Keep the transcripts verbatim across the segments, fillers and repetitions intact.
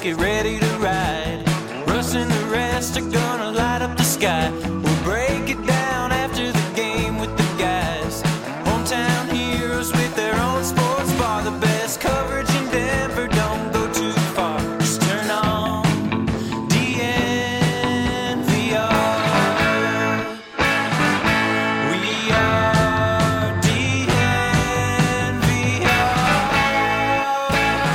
get ready to ride. Russ and the rest are gonna light up the sky. We'll break it down after the game with the guys. Hometown heroes with their own sports bar. The best coverage in Denver, don't go too far. Just turn on D N V R. We are D N V R.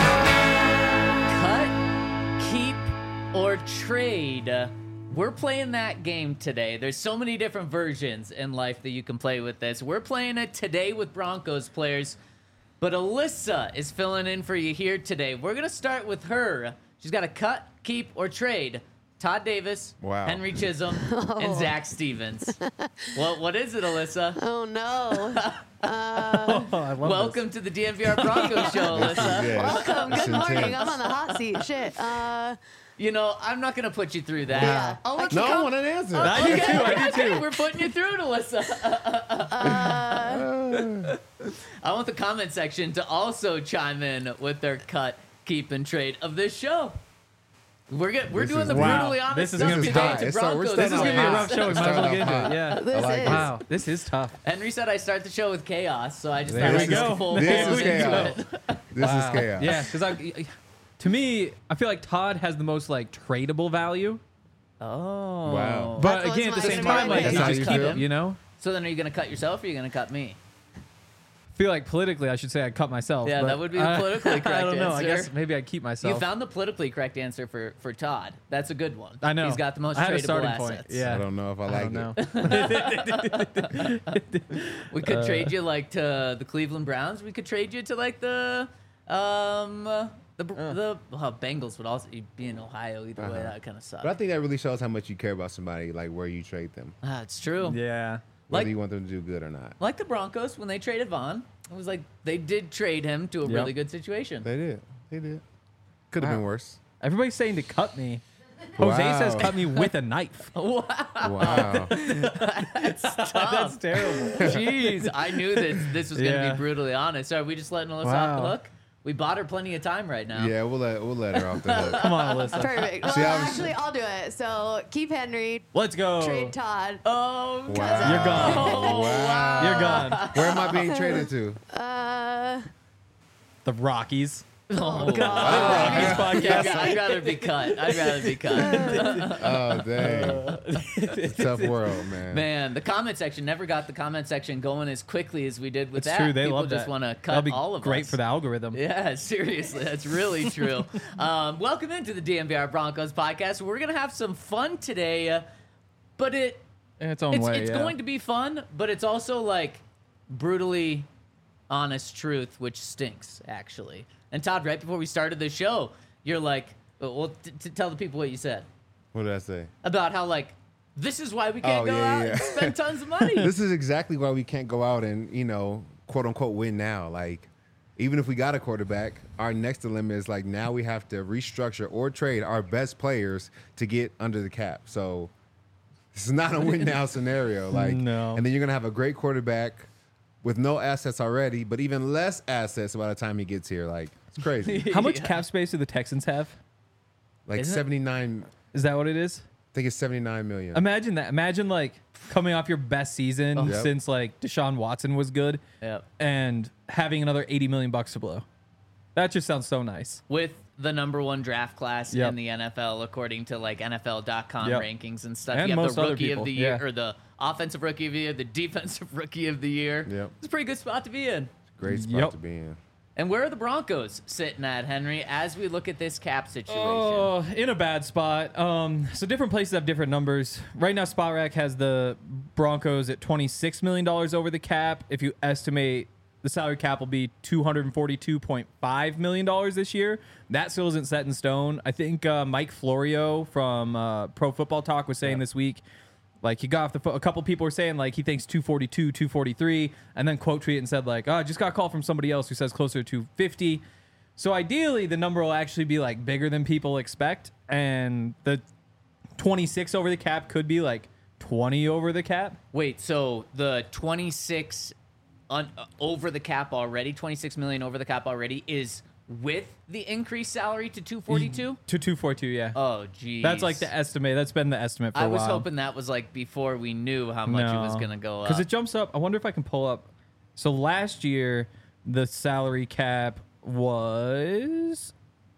Cut, keep, or trade. We're playing that game today. There's so many different versions in life that you can play with this. We're playing it today with Broncos players, but Alyssa is filling in for you here today. We're going to start with her. She's got to cut, keep, or trade Todd Davis, Wow. Henry Chisholm, and Zach Stevens. What What is it, Alyssa? Oh, no. Oh, I love Welcome to the D N V R Broncos show, Alyssa. Yeah. Welcome. That's Good morning. intense. I'm on the hot seat. Shit. Uh, You know, I'm not going to put you through that. Yeah. I'll let No, you I come- want an answer. I do too. I do too. We're putting you through it, Alyssa. uh, I want the comment section to also chime in with their cut, keep, and trade of this show. We're get, we're This doing is- the Wow. brutally honest This is stuff gonna be today hot. to It's so- we're Broncos. This is starting gonna be a off rough hot. show. We might as well Starting get into off it. Yeah. this like is. it. Wow, this is tough. Henry said I start the show with chaos, so I just There thought we I'd just go. full This blow is into chaos. it. This is Wow. chaos. Yeah, because I, to me, I feel like Todd has the most like tradable value, Oh. Wow. but That's again, at the what's same my time, like favorite. you That's just how keep you it. feel? You know, So then are you going to cut yourself or are you going to cut me? I feel like politically, I should say I cut myself. Yeah, but that would be the I- politically correct I don't know. I answer. guess maybe I'd keep myself. You found the politically correct answer for, for Todd. That's a good one. I know. He's got the most I had a tradable starting assets. point. Yeah. I don't know if I I like don't it. know. We could trade you like to the Cleveland Browns. We could trade you to like the um uh, the the well, Bengals would also be in Ohio either way. Uh-huh. That kind of sucks. But I think that really shows how much you care about somebody, like where you trade them, Ah, it's true. Yeah. whether Like- you want them to do good or not. Like the Broncos when they traded Vaughn, it was like they did trade him to a Yep. really good situation. They did. They did. Could have Wow. been worse. Everybody's saying to cut me. Jose Wow. says cut me with a knife. Wow. That's tough. That's terrible. Jeez, I knew that this was going to Yeah. be brutally honest. Are we just letting Alyssa off the Wow. hook? We bought her plenty of time right now. Yeah, we'll let we'll let her off the hook. Come on, Alyssa. Perfect. Well, See, I was- actually, I'll do it. So keep Henry, Let's go. trade Todd. Oh, Wow. You're gone. Oh, Wow. You're gone. Where am I being traded to? Uh, The Rockies. oh, Rockies I'd, podcast. I'd rather be cut. I'd rather be cut. Oh dang. It's a tough world, man. Man, the comment section never got the comment section going as quickly as we did with It's that. true. They People love just that. want to That'll cut be all of great us. for the algorithm. Yeah, seriously, that's really true. Um, welcome into the D N V R Broncos podcast. We're gonna have some fun today, uh, but it In its own it's, way. it's yeah. going to be fun, but it's also like brutally honest truth, which stinks actually. And Todd, right before we started the show, you're like, well, t- t- tell the people what you said What did I say? about how like this is why we can't Oh, go yeah, out yeah. and spend tons of money. This is exactly why we can't go out and, you know, quote unquote win now. Like, even if we got a quarterback, our next dilemma is like now we have to restructure or trade our best players to get under the cap. So this is not a win now scenario. Like, No. and then you're gonna have a great quarterback with no assets already, but even less assets by the time he gets here. Like, it's crazy. How much Yeah. cap space do the Texans have? Like Isn't it? seventy-nine. Is that what it is? I think it's seventy-nine million. Imagine that. Imagine like coming off your best season Oh. Yep. since like Deshaun Watson was good, Yep. and having another eighty million bucks to blow. That just sounds so nice. With the number one draft class Yep. in the N F L, according to like N F L dot com Yep. rankings and stuff. And you have most the other rookie people, of the year, yeah. or the offensive rookie of the year, the defensive rookie of the year. Yep. It's a pretty good spot to be in. Great spot Yep. to be in. And where are the Broncos sitting at, Henry, as we look at this cap situation? Oh, in a bad spot. Um, so different places have different numbers. Right now, SpotRack has the Broncos at twenty-six million dollars over the cap. If you estimate the salary cap will be two hundred forty-two point five million dollars this year, that still isn't set in stone. I think uh, Mike Florio from uh, Pro Football Talk was saying Yeah. this week, like he got off the phone. A couple people were saying like he thinks two forty-two, two forty-three, and then quote tweet and said like, oh, I just got a call from somebody else who says closer to two fifty. So ideally, the number will actually be like bigger than people expect, and the twenty-six over the cap could be like twenty over the cap. Wait, so the twenty-six un, uh, over the cap already, twenty-six million over the cap already is with the increased salary to two forty-two? To two forty-two, yeah. Oh, geez. That's like the estimate. That's been the estimate for I a was while. hoping that was like before we knew how much it was going to go up. Because it jumps up. I wonder if I can pull up. So last year, the salary cap was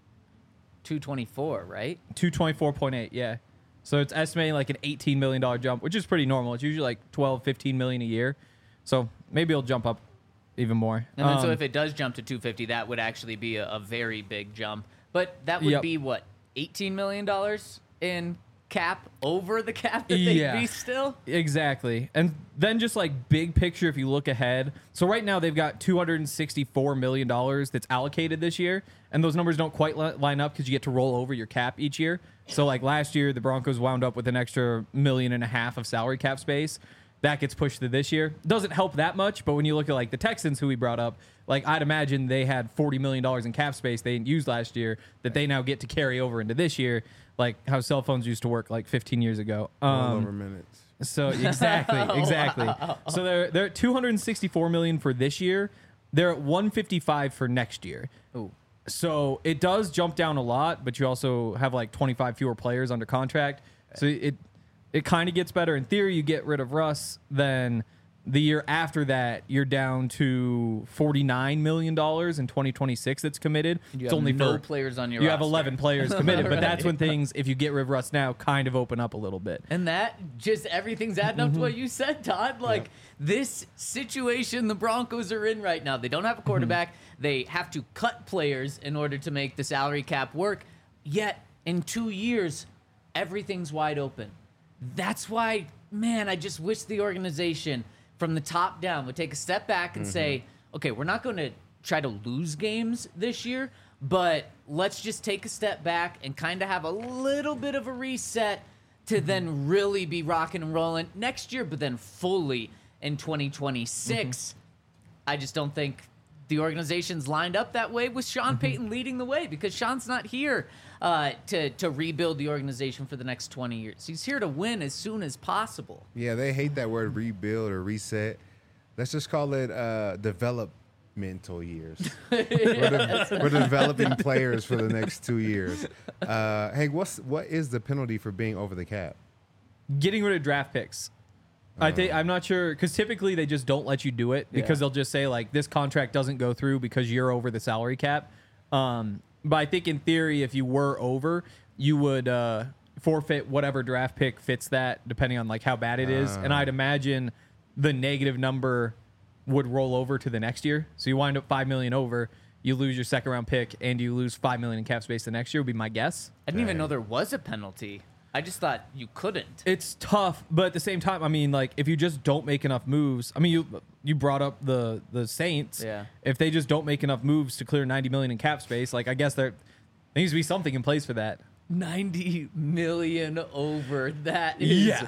two twenty-four, right? two twenty-four point eight, yeah. So it's estimating like an eighteen million dollars jump, which is pretty normal. It's usually like twelve, fifteen million a year. So maybe it'll jump up even more. And then so Um, if it does jump to two fifty, that would actually be a, a very big jump. But that would Yep. be what, eighteen million dollars in cap over the cap that they'd Yeah. be still? Exactly. And then just like big picture, if you look ahead. So right now they've got two hundred sixty-four million dollars that's allocated this year. And those numbers don't quite li- line up because you get to roll over your cap each year. So like last year, the Broncos wound up with an extra million and a half of salary cap space. That gets pushed to this year. Doesn't help that much, but when you look at like the Texans who we brought up, like I'd imagine they had forty million dollars in cap space they didn't use last year that they now get to carry over into this year, like how cell phones used to work like fifteen years ago. All Um, over minutes. so exactly, exactly. So they're they're at two hundred sixty-four million for this year. They're at one fifty-five for next year. Ooh. So it does jump down a lot, but you also have like twenty-five fewer players under contract. So it it kind of gets better. In theory, you get rid of Russ, then the year after that, you're down to forty-nine million dollars in twenty twenty-six that's committed. You it's have only no for, players on your You have roster. eleven players committed, but that's Right. when things, if you get rid of Russ now, kind of open up a little bit. And that just everything's adding up to what you said, Todd. Like this situation the Broncos are in right now. They don't have a quarterback. They have to cut players in order to make the salary cap work. Yet in two years, everything's wide open. That's why, man, I just wish the organization from the top down would take a step back and say, okay, we're not going to try to lose games this year, but let's just take a step back and kind of have a little bit of a reset to then really be rocking and rolling next year, but then fully in twenty twenty-six. I just don't think the organization's lined up that way with Sean Payton leading the way, because Sean's not here uh, to, to rebuild the organization for the next twenty years. He's here to win as soon as possible. Yeah, they hate that word rebuild or reset. Let's just call it uh, developmental years. we're, de- we're developing players for the next two years. Uh, Hank, what's what is the penalty for being over the cap? Getting rid of draft picks. I think I'm not sure because typically they just don't let you do it because Yeah. they'll just say like this contract doesn't go through because you're over the salary cap. Um, but I think in theory, if you were over, you would uh, forfeit whatever draft pick fits that, depending on like how bad it is. And I'd imagine the negative number would roll over to the next year. So you wind up five million over, you lose your second round pick, and you lose five million in cap space the next year. Would be my guess. I didn't even know there was a penalty. I just thought you couldn't. It's tough, but at the same time, I mean, like if you just don't make enough moves, I mean, you you brought up the the Saints. Yeah. If they just don't make enough moves to clear ninety million in cap space, like I guess there, there needs to be something in place for that. ninety million over. That is Yeah.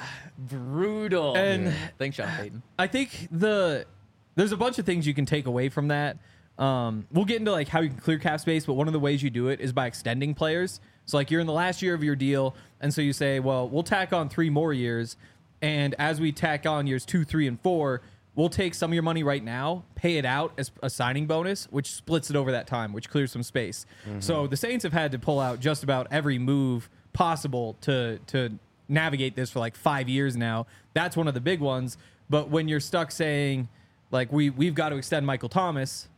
brutal. And- Thanks, Sean Payton. I think the there's a bunch of things you can take away from that. Um, we'll get into like how you can clear cap space, but one of the ways you do it is by extending players. So like you're in the last year of your deal, and so you say, well, we'll tack on three more years, and as we tack on years two, three, and four, we'll take some of your money right now, pay it out as a signing bonus, which splits it over that time, which clears some space. So the Saints have had to pull out just about every move possible to to navigate this for like five years now. That's one of the big ones. But when you're stuck saying, like, we we've got to extend Michael Thomas,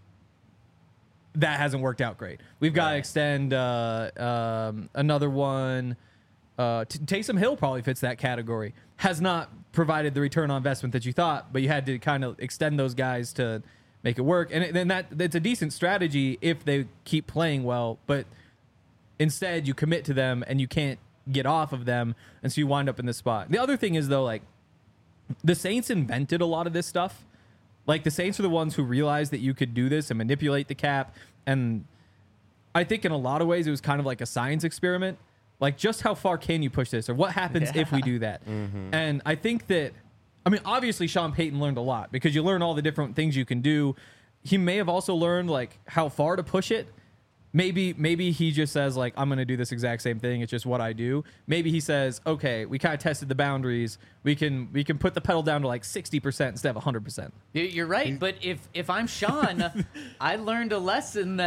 that hasn't worked out great. We've got to extend uh, um, another one. Uh, T- Taysom Hill probably fits that category. Has not provided the return on investment that you thought, but you had to kind of extend those guys to make it work. And then that it's a decent strategy if they keep playing well, but instead you commit to them and you can't get off of them, and so you wind up in this spot. The other thing is though, like the Saints invented a lot of this stuff. Like the Saints are the ones who realized that you could do this and manipulate the cap. And I think in a lot of ways it was kind of like a science experiment. Like just how far can you push this, or what happens if we do that? And I think that, I mean, obviously Sean Payton learned a lot because you learn all the different things you can do. He may have also learned like how far to push it. Maybe maybe he just says like, I'm going to do this exact same thing. It's just what I do. Maybe he says, okay, we kind of tested the boundaries. We can we can put the pedal down to like sixty percent instead of one hundred percent. You- You're right, but if if I'm Sean, I learned a lesson that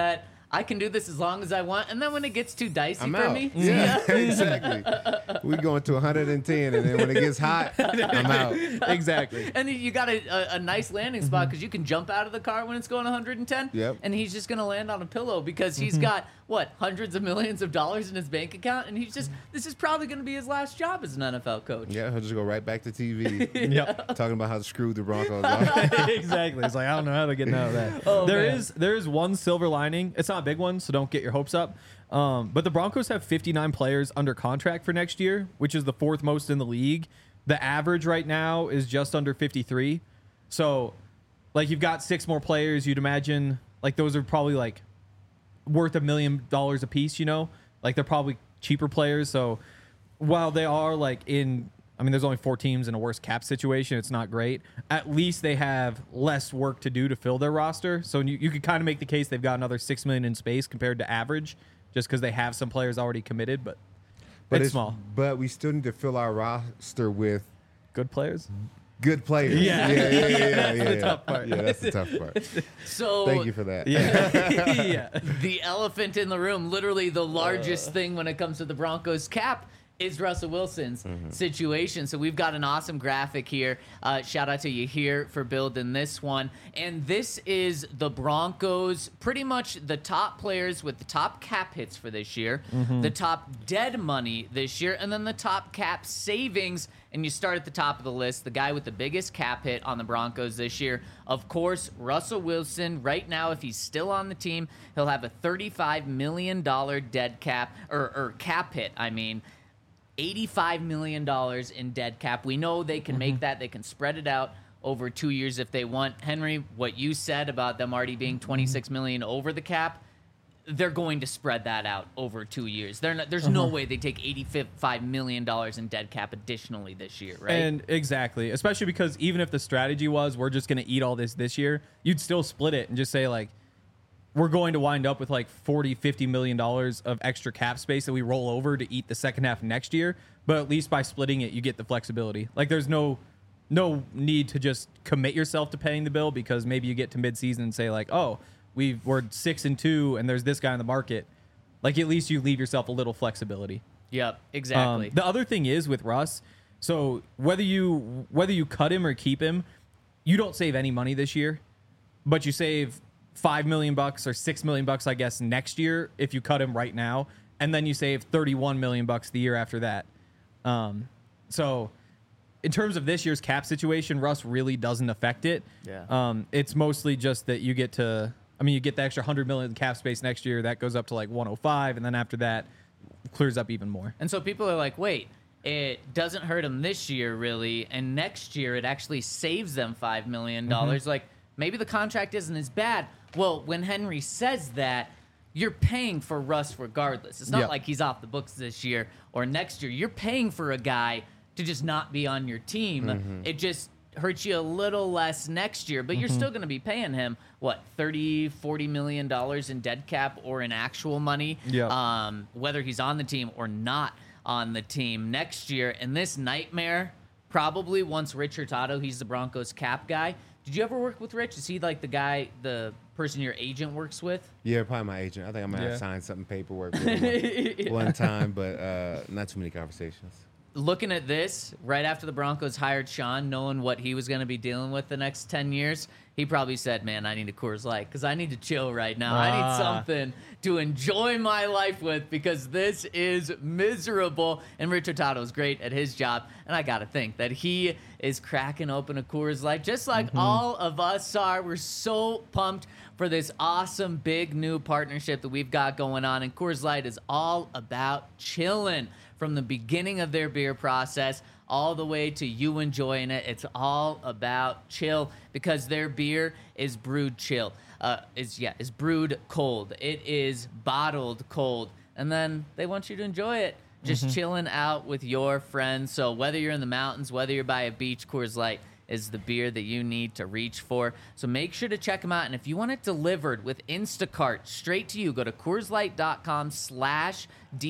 I can do this as long as I want. And then when it gets too dicey I'm for out. me, Yeah, exactly. We going to one hundred ten, and then when it gets hot, I'm out. Exactly. and you got a, a, a nice landing spot because you can jump out of the car when it's going one hundred ten. Yep. And he's just going to land on a pillow because he's got, what, hundreds of millions of dollars in his bank account. And he's just, this is probably going to be his last job as an N F L coach. Yeah, he'll just go right back to T V, Yep. talking about how screwed the Broncos are. Exactly. It's like I don't know how to get out of that. Oh, There man. is there is one silver lining. It's not a big one, so don't get your hopes up. Um, but the Broncos have fifty-nine players under contract for next year, which is the fourth most in the league. The average right now is just under fifty-three. So, like, you've got six more players. You'd imagine like those are probably like worth a million dollars a piece. You know, like they're probably cheaper players. So while they are like in I mean, there's only four teams in a worse cap situation. It's not great. At least they have less work to do to fill their roster. So you, you could kind of make the case they've got another six million in space compared to average, just because they have some players already committed. But, But it's, small. But we still need to fill our roster with Good players. good players. Yeah. yeah, yeah, yeah. yeah, yeah, the yeah. tough part. Yeah, that's the tough part. So Thank you for that. Yeah. yeah. the elephant in the room, literally the largest thing when it comes to the Broncos cap, is Russell Wilson's situation. So we've got an awesome graphic here. Uh, shout out to you here for building this one. And this is the Broncos, pretty much the top players with the top cap hits for this year, the top dead money this year, and then the top cap savings. And you start at the top of the list, the guy with the biggest cap hit on the Broncos this year. Of course, Russell Wilson. Right now, if he's still on the team, he'll have a thirty-five million dollars dead cap, or, or cap hit, I mean. eighty-five million dollars in dead cap. We know they can make that. They can spread it out over two years if they want. Henry, what you said about them already being twenty-six million dollars over the cap, they're going to spread that out over two years. They're not, there's no way they take eighty-five million dollars in dead cap additionally this year, right? And exactly, especially because even if the strategy was we're just going to eat all this this year, you'd still split it and just say like, we're going to wind up with like forty, fifty million dollars of extra cap space that we roll over to eat the second half next year. But at least by splitting it, you get the flexibility. Like there's no no need to just commit yourself to paying the bill, because maybe you get to midseason and say like, oh, we've, we're six and two and there's this guy in the market. Like at least you leave yourself a little flexibility. Yep, exactly. Um, the other thing is with Russ, so whether you whether you cut him or keep him, you don't save any money this year, but you save five million bucks or six million bucks, I guess, next year if you cut him right now, and then you save thirty-one million bucks the year after that. Um, so in terms of this year's cap situation, Russ really doesn't affect it. Yeah. Um, it's mostly just that you get to, I mean, you get the extra hundred million cap space next year. That goes up to like one oh five, and then after that, clears up even more. And so people are like, wait, it doesn't hurt them this year, really, and next year it actually saves them five million dollars. Like, maybe the contract isn't as bad. Well, when Henry says that, you're paying for Russ regardless. It's not Yep. like he's off the books this year or next year. You're paying for a guy to just not be on your team. It just hurts you a little less next year, but you're still going to be paying him, what, thirty, forty million dollars in dead cap or in actual money, Yep. um, whether he's on the team or not on the team next year. And this nightmare, probably once Rich Hurtado, he's the Broncos cap guy. Did you ever work with Rich? Is he like the guy, the person your agent works with? Yeah, probably my agent. I think I'm gonna Yeah. have signed something paperwork with him one, one time, but uh, not too many conversations. Looking at this, right after the Broncos hired Sean, knowing what he was going to be dealing with the next ten years, he probably said, man, I need a Coors Light because I need to chill right now. I need Ah. something to enjoy my life with because this is miserable. And Rich Hurtado is great at his job. And I got to think that he is cracking open a Coors Light just like all of us are. We're so pumped for this awesome big new partnership that we've got going on. And Coors Light is all about chilling. From the beginning of their beer process all the way to you enjoying it, it's all about chill because their beer is brewed chill. Uh, is yeah, is brewed cold. It is bottled cold, and then they want you to enjoy it, just chilling out with your friends. So whether you're in the mountains, whether you're by a beach, Coors Light is the beer that you need to reach for. So make sure to check them out. And if you want it delivered with Instacart straight to you, go to CoorsLight.com slash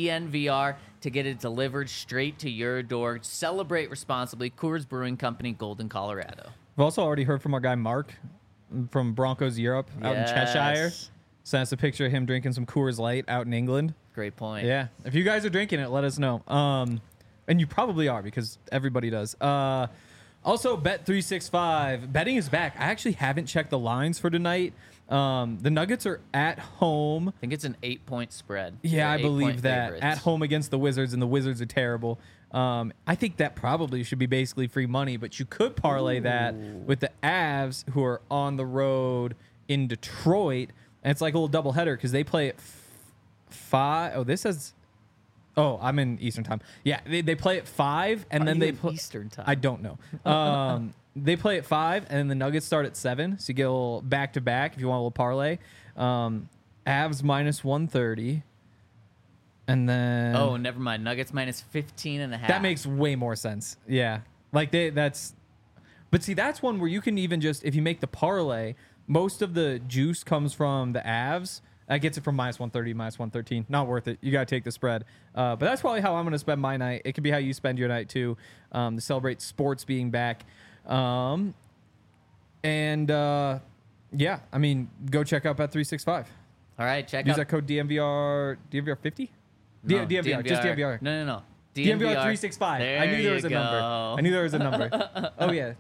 DNVR to get it delivered straight to your door. Celebrate responsibly. Coors Brewing Company, Golden, Colorado. I've also already heard from our guy Mark from Broncos Europe out in Cheshire. Yes. sent us a picture of him drinking some Coors Light out in England. Great point. Yeah. If you guys are drinking it, let us know. Um, and you probably are because everybody does. Uh, also, Bet three sixty-five. Betting is back. I actually haven't checked the lines for tonight. Um, the Nuggets are at home. I think it's an eight-point spread. Yeah, They're I believe eight-point that. favorites. At home against the Wizards, and the Wizards are terrible. Um, I think that probably should be basically free money, but you could parlay that with the Avs, who are on the road in Detroit. And it's like a little doubleheader because they play at f- five. Oh, this says. Oh, I'm in Eastern time. Yeah, they, they play at five, and Are then you they in play Eastern time? I don't know. Um, they play at five, and then the Nuggets start at seven. So you get a little back to back if you want a little parlay. Um, Avs minus one thirty, and then Oh, never mind. Nuggets minus fifteen and a half. that makes way more sense. Yeah, like they that's. But see, that's one where you can even just if you make the parlay, most of the juice comes from the Avs. That gets it from minus one thirty, minus one thirteen. Not worth it. You got to take the spread. Uh, but that's probably how I'm going to spend my night. It could be how you spend your night, too, um, to celebrate sports being back. Um, and, uh, yeah, I mean, go check out Bet three sixty-five. All right, check Use out that code D M V R, D M V R fifty? no, D M V R, just D M V R. No, no, no. D M V R three sixty-five. There I knew there you was a go. number. I knew there was a number. Oh, yeah.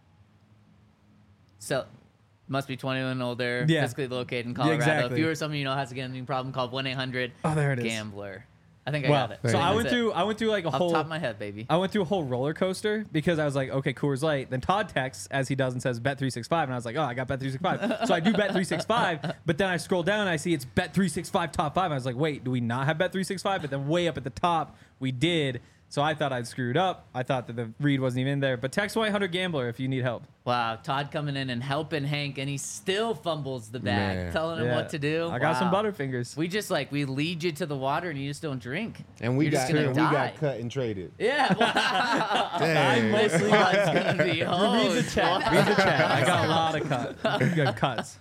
So, must be twenty-one and older, Yeah. physically located in Colorado. exactly. If you or someone you know has a gambling problem, call one eight hundred Oh, there it is. gambler. I think I Well, got it. so There I you went That's it. through I went through like a Off whole the top of my head, baby. I went through a whole roller coaster because I was like, okay, Coors Light. Then Todd texts as he does and says Bet three sixty-five, and I was like, oh, I got Bet three sixty-five. So I do Bet three sixty-five, but then I scroll down and I see it's Bet three sixty-five top five. I was like, wait, do we not have Bet three sixty-five? But then way up at the top, we did. So I thought I'd screwed up. I thought that the read wasn't even in there. But text one eight hundred gambler if you need help. Wow, Todd coming in and helping Hank, and he still fumbles the bag, Man. telling him Yeah. what to do. I got some Wow. Butterfingers. We just like we lead you to the water, and you just don't drink. And we You're got just gonna and we die. got cut and traded. Yeah, wow. Dang. this one's gonna be Read the hosed. chat. Read the chat. I got a lot of cut, good cuts.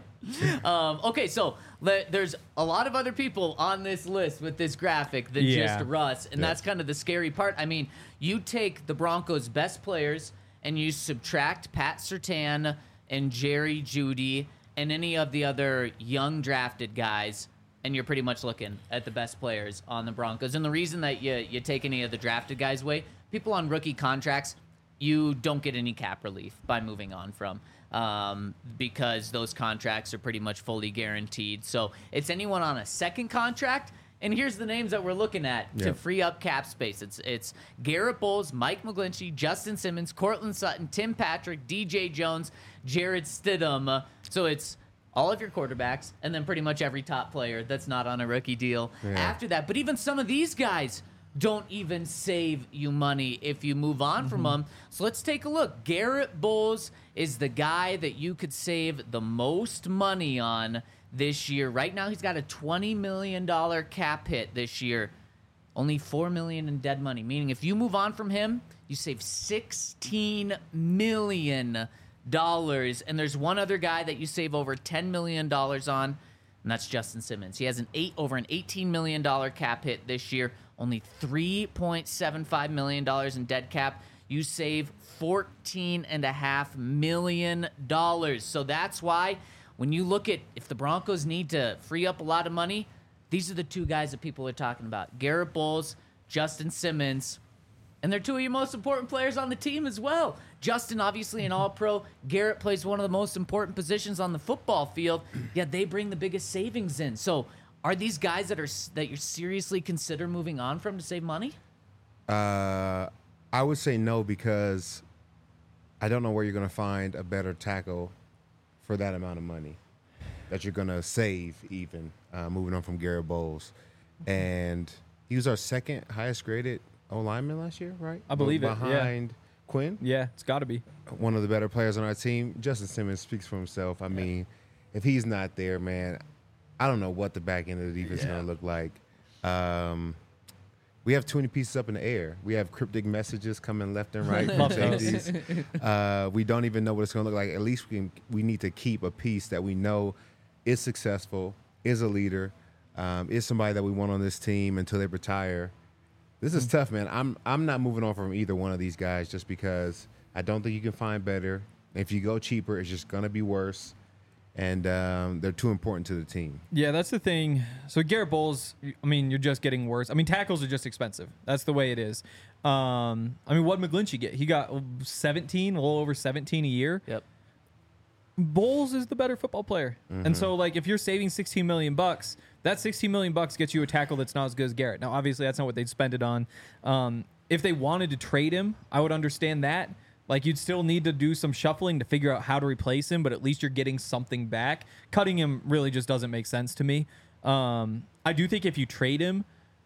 Um, okay, so le- there's a lot of other people on this list with this graphic than Yeah. just Russ, and Yeah. that's kind of the scary part. I mean, you take the Broncos' best players and you subtract Pat Surtain and Jerry Jeudy and any of the other young drafted guys, and you're pretty much looking at the best players on the Broncos. And the reason that you you take any of the drafted guys away, people on rookie contracts, you don't get any cap relief by moving on from. Um, because those contracts are pretty much fully guaranteed. So it's anyone on a second contract. And here's the names that we're looking at to Yeah. free up cap space. It's it's Garrett Bowles, Mike McGlinchey, Justin Simmons, Cortland Sutton, Tim Patrick, D J Jones, Jared Stidham. Uh, So it's all of your quarterbacks and then pretty much every top player that's not on a rookie deal Yeah. after that. But even some of these guys don't even save you money if you move on from them. So let's take a look. Garrett Bowles is the guy that you could save the most money on this year. Right now, he's got a twenty million dollars cap hit this year. Only four million dollars in dead money, meaning if you move on from him, you save sixteen million dollars. And there's one other guy that you save over ten million dollars on, and that's Justin Simmons. He has an eight over an eighteen million dollars cap hit this year, only three point seven five million dollars in dead cap. You save fourteen and a half million dollars. So that's why when you look at if the Broncos need to free up a lot of money, these are the two guys that people are talking about. Garrett Bowles, Justin Simmons. And they're two of your most important players on the team as well. Justin, obviously, an all-pro. Garrett plays one of the most important positions on the football field. Yet they bring the biggest savings in. So, are these guys that are that you seriously consider moving on from to save money? Uh, I would say no because I don't know where you're going to find a better tackle for that amount of money that you're going to save even uh, moving on from Garrett Bowles. And he was our second highest graded O-lineman last year, right? I believe it, yeah. Behind Quinn, Yeah, it's got to be. one of the better players on our team. Justin Simmons speaks for himself. I mean, if he's not there, man, I don't know what the back end of the defense is going to look like. Um, we have too many pieces up in the air. We have cryptic messages coming left and right from Love those. safeties. Uh, we don't even know what it's going to look like. At least we can, we need to keep a piece that we know is successful, is a leader, um, is somebody that we want on this team until they retire. This is tough, man. I'm I'm not moving on from either one of these guys just because I don't think you can find better. If you go cheaper, it's just going to be worse. and um, they're too important to the team. Yeah, that's the thing. So Garrett Bowles, I mean, you're just getting worse. I mean, tackles are just expensive. That's the way it is. Um, I mean, what did McGlinchey get? He got seventeen, a little over seventeen a year. Yep. Bowles is the better football player. Mm-hmm. And so like if you're saving sixteen million bucks, that sixteen million bucks gets you a tackle that's not as good as Garrett. Now obviously that's not what they'd spend it on. Um, if they wanted to trade him, I would understand that. Like you'd still need to do some shuffling to figure out how to replace him, but at least you're getting something back. Cutting him really just doesn't make sense to me. Um, I do think if you trade him,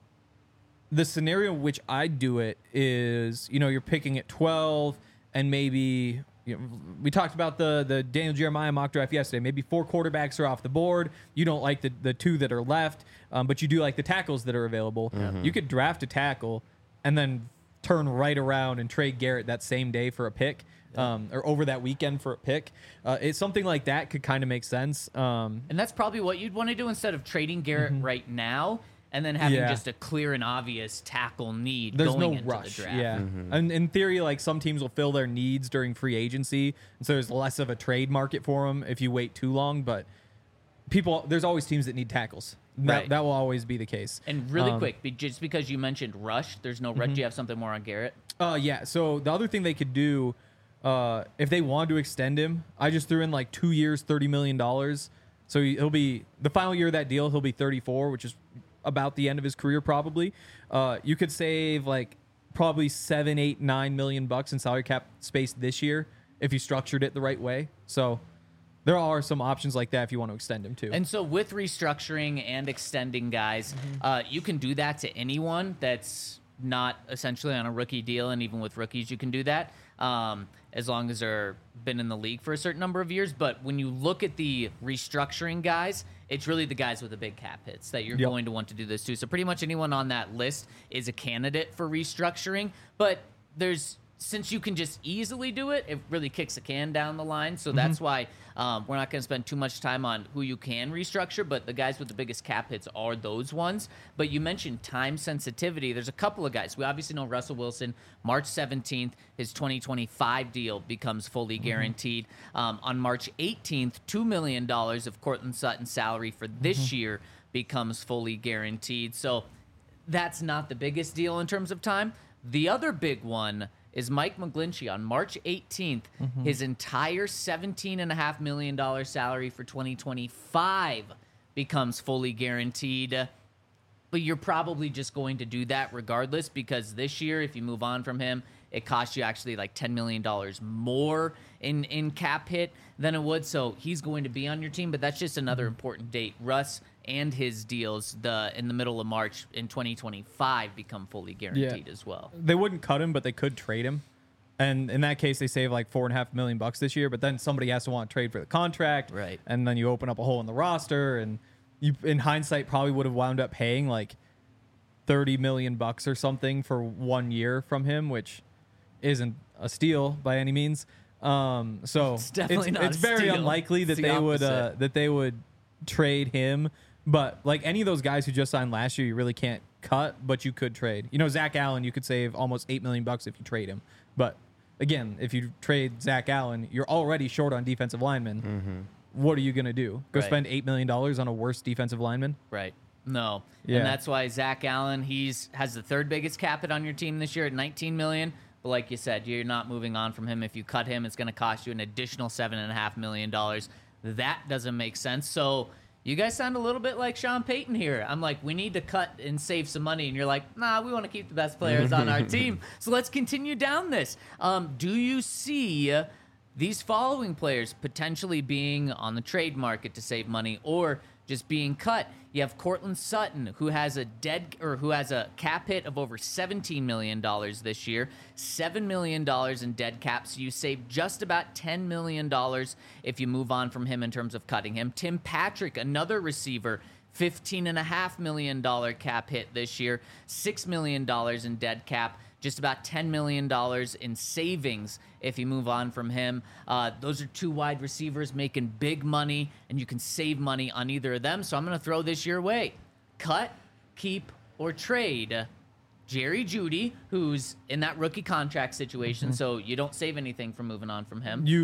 the scenario in which I'd do it is, you know, you're picking at twelve and maybe, you know, we talked about the the Daniel Jeremiah mock draft yesterday. Maybe four quarterbacks are off the board. You don't like the, the two that are left, um, but you do like the tackles that are available. Mm-hmm. You could draft a tackle and then turn right around and trade Garrett that same day for a pick, um, or over that weekend for a pick. Uh, it's something like that could kind of make sense. Um, And that's probably what you'd want to do instead of trading Garrett right now and then having Yeah. just a clear and obvious tackle need There's going no into rush. the draft. Yeah. And in theory, like some teams will fill their needs during free agency. And so there's less of a trade market for them if you wait too long. But people, there's always teams that need tackles. That, Right. that will always be the case. And really Um, quick, be- just because you mentioned rush, there's no rush. Do you have something more on Garrett? Uh, yeah. So the other thing they could do, uh, if they wanted to extend him, I just threw in like two years, thirty million dollars. So he- he'll be the final year of that deal. He'll be thirty-four, which is about the end of his career probably. Uh, you could save like probably seven, eight, nine million bucks in salary cap space this year if you structured it the right way. So there are some options like that if you want to extend him too. And so with restructuring and extending guys, uh, you can do that to anyone that's not essentially on a rookie deal. And even with rookies, you can do that um, as long as they're been in the league for a certain number of years. But when you look at the restructuring guys, it's really the guys with the big cap hits that you're Yep. going to want to do this to. So pretty much anyone on that list is a candidate for restructuring. But there's since you can just easily do it, it really kicks the can down the line. So that's why um, we're not going to spend too much time on who you can restructure, but the guys with the biggest cap hits are those ones. But you mentioned time sensitivity. There's a couple of guys. We obviously know Russell Wilson, March seventeenth, his twenty twenty-five deal becomes fully guaranteed. Um, on March eighteenth, two million dollars of Cortland Sutton's salary for this year becomes fully guaranteed. So that's not the biggest deal in terms of time. The other big one is Mike McGlinchey on March eighteenth. His entire seventeen point five million dollars salary for twenty twenty-five becomes fully guaranteed. But you're probably just going to do that regardless because this year, if you move on from him, it costs you actually like ten million dollars more in, in cap hit than it would. So he's going to be on your team, but that's just another important date. Russ and his deals the in the middle of March in twenty twenty-five become fully guaranteed as well. They wouldn't cut him, but they could trade him. And in that case, they save like four and a half million bucks this year. But then somebody has to want to trade for the contract, Right. And then you open up a hole in the roster, and you, in hindsight, probably would have wound up paying like thirty million bucks or something for one year from him, which isn't a steal by any means. Um, so It's definitely it's, not it's a very steal. unlikely that It's the they would uh, opposite. that they would trade him. But like any of those guys who just signed last year, you really can't cut, but you could trade. You know, Zach Allen, you could save almost eight million bucks if you trade him. But again, if you trade Zach Allen, you're already short on defensive linemen. What are you gonna do? Go Right. spend eight million dollars on a worse defensive lineman? Right. No. Yeah. And that's why Zach Allen, he's has the third biggest cap hit on your team this year at nineteen million dollars. But like you said, you're not moving on from him. If you cut him, it's going to cost you an additional seven and a half million dollars. That doesn't make sense. So you guys sound a little bit like Sean Payton here. I'm like, we need to cut and save some money, and you're like, nah, we want to keep the best players on our team. So let's continue down this. Um, do you see these following players potentially being on the trade market to save money or just being cut? You have Cortland Sutton, who has a dead or who has a cap hit of over seventeen million dollars this year, seven million dollars in dead cap. So you save just about ten million dollars if you move on from him in terms of cutting him. Tim Patrick, another receiver, fifteen point five million dollars cap hit this year, six million dollars in dead cap. Just about ten million dollars in savings if you move on from him. Uh, those are two wide receivers making big money, and you can save money on either of them. So I'm going to throw this your way. Cut, keep, or trade Jerry Jeudy, who's in that rookie contract situation, so you don't save anything from moving on from him. You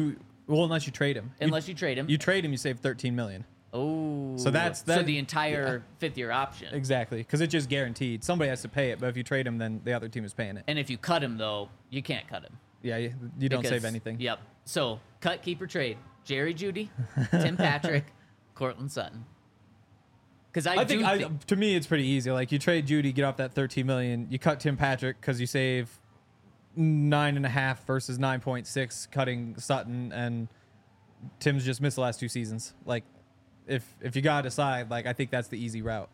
Well, unless you trade him. unless you trade him. You trade him, you save thirteen million. Oh, So that's- so that- the entire fifth year option. Exactly, because it's just guaranteed. Somebody has to pay it, but if you trade him, then the other team is paying it. And if you cut him though, you can't cut him. Yeah, you, you don't because- save anything. Yep. So cut, keep, or trade. Jerry Judy, Tim Patrick, Cortland Sutton. Because I, I do think I, think to me it's pretty easy. Like you trade Judy, get off that thirteen million. You cut Tim Patrick because you save nine and a half versus nine point six, cutting Sutton, and Tim's just missed the last two seasons. Like if if you gotta decide, like I think that's the easy route.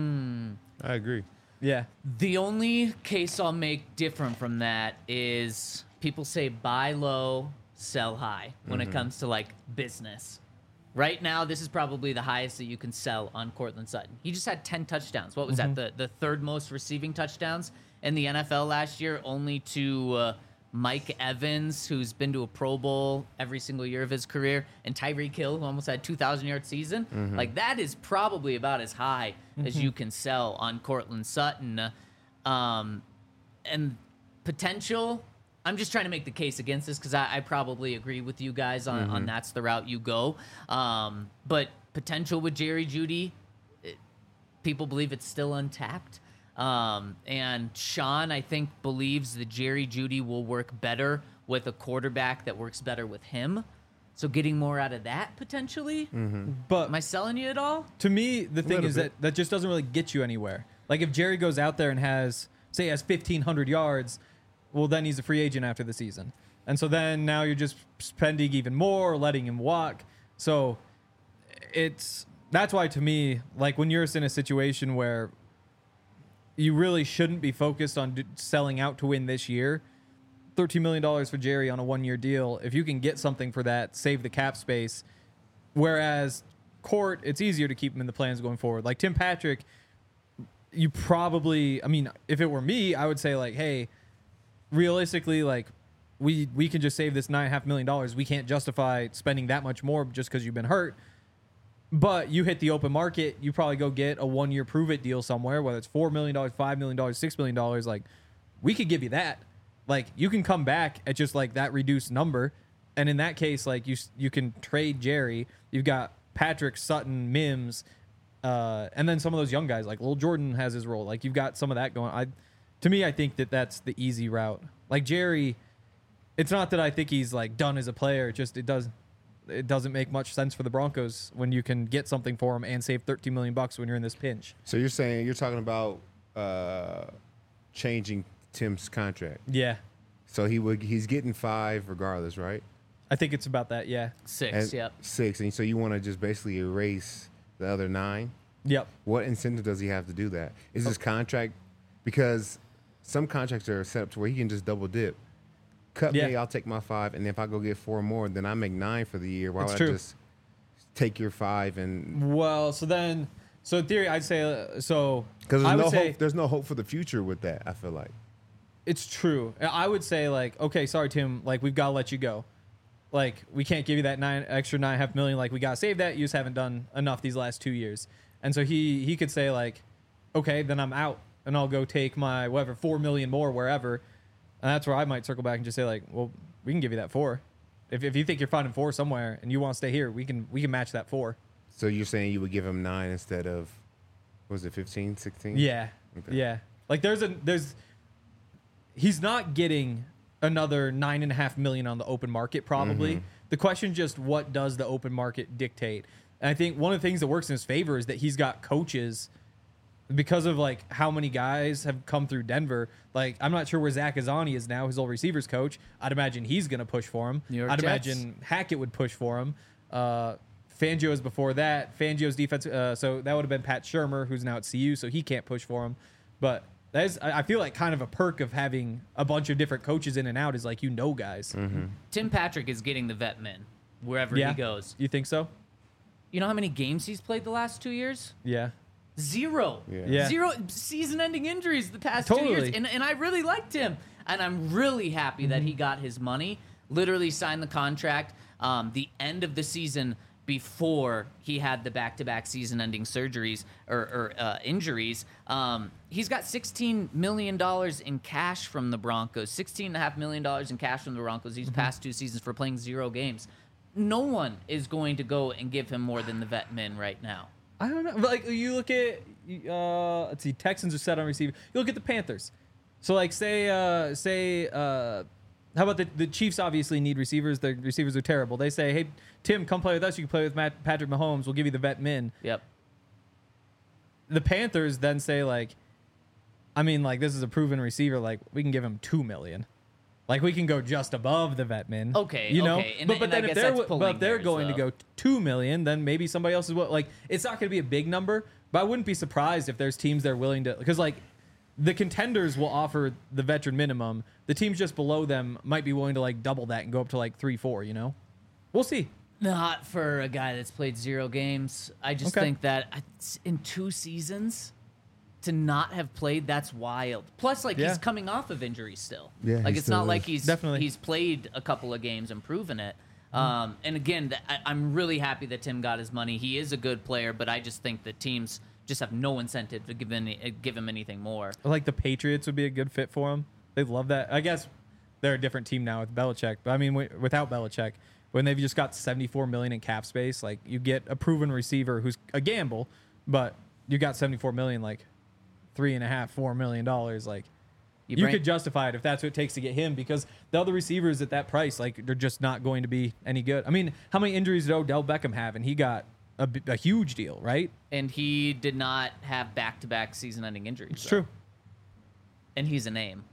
I agree. Yeah, the only case I'll make different from that is people say buy low, sell high when it comes to like business. Right now, this is probably the highest that you can sell on Cortland Sutton. He just had ten touchdowns. What was that? The the third most receiving touchdowns in the N F L last year, only to uh, Mike Evans, who's been to a Pro Bowl every single year of his career, and Tyreek Hill, who almost had two thousand yard season. Like that is probably about as high as you can sell on Cortland Sutton. Um, and potential, I'm just trying to make the case against this because I, I probably agree with you guys on, on that's the route you go. Um, but potential with Jerry Judy, it, people believe it's still untapped. Um, and Sean, I think, believes that Jerry Judy will work better with a quarterback that works better with him. So getting more out of that potentially. but Am I selling you at all? to me, the thing little is bit. that that just doesn't really get you anywhere. Like if Jerry goes out there and has, say, he has fifteen hundred yards, well, then he's a free agent after the season. And so then now you're just spending even more, letting him walk. So it's that's why to me, like when you're in a situation where you really shouldn't be focused on d- selling out to win this year, thirteen million dollars for Jerry on a one-year deal, if you can get something for that, save the cap space. Whereas Court, it's easier to keep him in the plans going forward. Like Tim Patrick, you probably, I mean, if it were me, I would say like, hey, realistically, like we we can just save this nine and a half million dollars. We can't justify spending that much more just because you've been hurt. But you hit the open market, you probably go get a one-year prove-it deal somewhere, whether it's four million dollars, five million dollars, six million dollars. Like, we could give you that. Like, you can come back at just, like, that reduced number. And in that case, like, you you can trade Jerry. You've got Patrick, Sutton, Mims, uh, and then some of those young guys. Like, Lil Jordan has his role. Like, you've got some of that going. I, to me, I think that that's the easy route. Like, Jerry, it's not that I think he's, like, done as a player. It just, it does it doesn't make much sense for the Broncos when you can get something for him and save thirteen million bucks when you're in this pinch. So you're saying you're talking about uh, changing Tim's contract. Yeah. So he would he's getting five regardless, right? I think it's about that. Yeah. Six, And yep. Six, and so you want to just basically erase the other nine. Yep. What incentive does he have to do that? Is his contract because some contracts are set up to where he can just double dip. Cut Yeah. me, I'll take my five, and if I go get four more, then I make nine for the year. Why It's would true. I just take your five and Well, so then, so in theory, I'd say, uh, so because I there's would no say hope. There's no hope for the future with that. I feel like. it's true. I would say like, okay, sorry, Tim, like we've got to let you go. Like we can't give you that nine extra nine and a half million. Like we got to save that. You just haven't done enough these last two years. And so he, he could say like, okay, then I'm out and I'll go take my whatever, four million more wherever. And that's where I might circle back and just say like, well, we can give you that four. If, if you think you're finding four somewhere and you want to stay here, we can, we can match that four. So you're saying you would give him nine instead of, what was it fifteen, sixteen? Yeah. Okay. Yeah. Like there's a there's he's not getting another nine and a half million on the open market probably. Mm-hmm. The question is just what does the open market dictate? And I think one of the things that works in his favor is that he's got coaches because of like how many guys have come through Denver. Like I'm not sure where Zach Azani is now, his old receivers coach. I'd imagine he's gonna push for him. New York I'd Jets. imagine Hackett would push for him. Uh Fangio's before that. Fangio's defense. Uh, so that would have been Pat Shermer, who's now at C U, so he can't push for him. But that is, I I feel like kind of a perk of having a bunch of different coaches in and out is like you know guys. Tim Patrick is getting the vet min wherever Yeah, he goes. You think so? You know how many games he's played the last two years? Yeah. Zero. Yeah. Yeah. Zero season-ending injuries the past two years. Totally. And, and I really liked him. And I'm really happy that he got his money, literally signed the contract um, the end of the season before he had the back-to-back season-ending surgeries or, or uh, injuries. Um, he's got sixteen million dollars in cash from the Broncos, sixteen point five million dollars in cash from the Broncos these past two seasons for playing zero games. no one is going to go and give him more than the vet min right now. I don't know. Like you look at, uh, let's see, Texans are set on receiver. You look at the Panthers. So like say, uh, say, uh, how about the, the Chiefs obviously need receivers. Their receivers are terrible. They say, hey, Tim, come play with us. You can play with Matt, Patrick Mahomes. We'll give you the vet min. Yep. The Panthers then say like, I mean, like this is a proven receiver. Like we can give him two million. Like we can go just above the vet min. Okay, you know. okay. And- but but and I then if guess they're that's but if pulling they're hairs, going though. to go two million, then maybe somebody else is what. Like it's not going to be a big number, but I wouldn't be surprised if there's teams that are willing to because like the contenders will offer the veteran minimum. The teams just below them might be willing to like double that and go up to like three, four. You know, we'll see. Not for a guy that's played zero games. I just Okay. think that it's- in two seasons to not have played, that's wild. Plus, like Yeah. he's coming off of injury still. Yeah, like he it's still not is. like he's Definitely. he's played a couple of games and proven it. Um, and again, th- I, I'm really happy that Tim got his money. He is a good player, but I just think that teams just have no incentive to give any, uh, give him anything more. Like the Patriots would be a good fit for him. They love that. I guess they're a different team now with Belichick. But I mean, w- without Belichick, when they've just got seventy-four million in cap space, like you get a proven receiver who's a gamble, but you got seventy-four million, like three and a half, four million dollars. Like You you, bring- could justify it if that's what it takes to get him because the other receivers at that price, like they're just not going to be any good. I mean, how many injuries did Odell Beckham have? And he got a, b- a huge deal, right? And he did not have back-to-back season-ending injuries. It's though. true. And he's a name.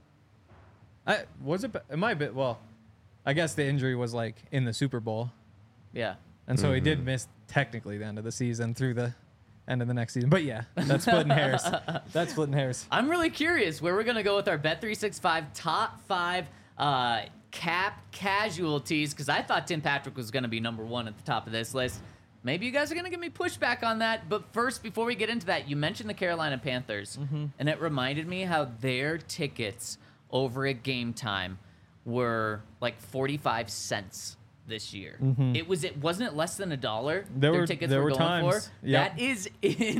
I was it. It might be. Well, I guess the injury was like in the Super Bowl. Yeah. And so he did miss technically the end of the season through the end of the next season. But yeah, that's splitting hairs. That's splitting hairs. I'm really curious where we're going to go with our Bet three sixty-five top five uh, cap casualties because I thought Tim Patrick was going to be number one at the top of this list. Maybe you guys are going to give me pushback on that. But first, before we get into that, you mentioned the Carolina Panthers, and it reminded me how their tickets over at Game Time were like forty-five cents this year. It was it wasn't it less than a dollar? There their were- tickets there were were going times. for. Yep. That is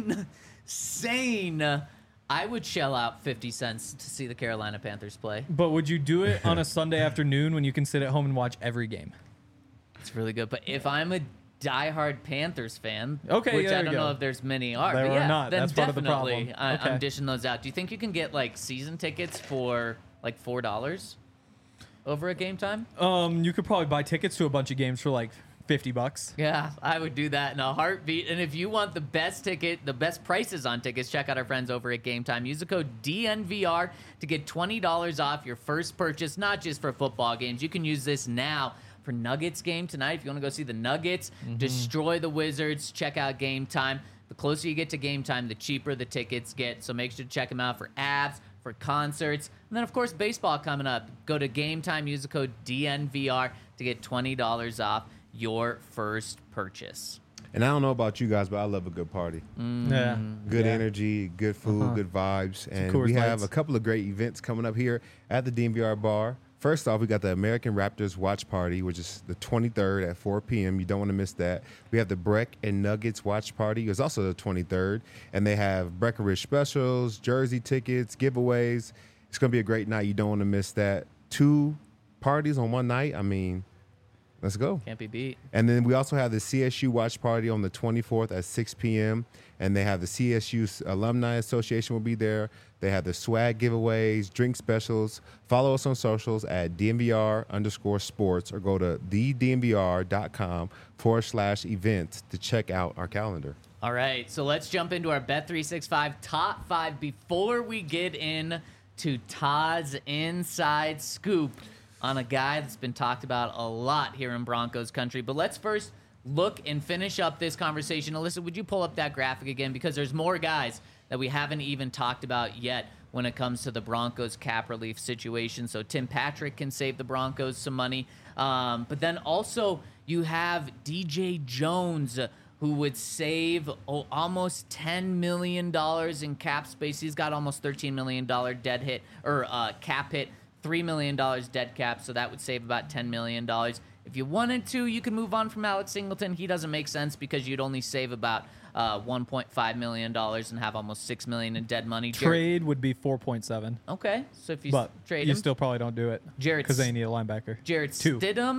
insane. I would shell out fifty cents to see the Carolina Panthers play. But would you do it on a Sunday afternoon when you can sit at home and watch every game? It's really good. But if I'm a diehard Panthers fan, Okay, which there I you don't go. know if there's many are, There but are yeah, not. then That's part of the definitely problem. I, Okay. I'm dishing those out. Do you think you can get like season tickets for like four dollars over at Game Time? Um, you could probably buy tickets to a bunch of games for like fifty bucks. Yeah, I would do that in a heartbeat. And if you want the best ticket, the best prices on tickets, check out our friends over at Game Time. Use the code D N V R to get twenty dollars off your first purchase, not just for football games. You can use this now for Nuggets game tonight. If you want to go see the Nuggets, destroy the Wizards, check out Game Time. The closer you get to Game Time, the cheaper the tickets get. So make sure to check them out for abs, for concerts. And then, of course, baseball coming up. Go to Game Time, use the code D N V R to get twenty dollars off your first purchase. And I don't know about you guys, but I love a good party. Yeah. Good Yeah. energy, good food, Uh-huh. good vibes. And Coors we have Lights. a couple of great events coming up here at the D N V R bar. First off, we got the American Raptors Watch Party, which is the twenty-third at four p.m. You don't want to miss that. We have the Breck and Nuggets Watch Party. It's also the twenty-third. And they have Breckenridge specials, jersey tickets, giveaways. It's going to be a great night. You don't want to miss that. Two parties on one night. I mean, let's go. Can't be beat. And then we also have the C S U Watch Party on the twenty-fourth at six p.m. And they have the C S U Alumni Association will be there. They have the swag giveaways, drink specials. Follow us on socials at D N V R underscore sports or go to the D N V R dot com forward slash events to check out our calendar. All right, so let's jump into our Bet three sixty-five top five before we get in to Todd's inside scoop on a guy that's been talked about a lot here in Broncos country. But let's first look and finish up this conversation. Alyssa, would you pull up that graphic again? Because there's more guys that we haven't even talked about yet when it comes to the Broncos cap relief situation. So Tim Patrick can save the Broncos some money. Um, but then also you have D J Jones, who would save oh, almost ten million dollars in cap space. He's got almost thirteen million dollars dead hit or uh, cap hit, three million dollars dead cap. So that would save about ten million dollars. If you wanted to, you could move on from Alex Singleton. He doesn't make sense because you'd only save about uh, one point five million dollars and have almost six million dollars in dead money. Jared- Trade would be four point seven. Okay, so if you But s- trade you him, still probably don't do it Jarrett because S- they need a linebacker. Jared Two. Stidham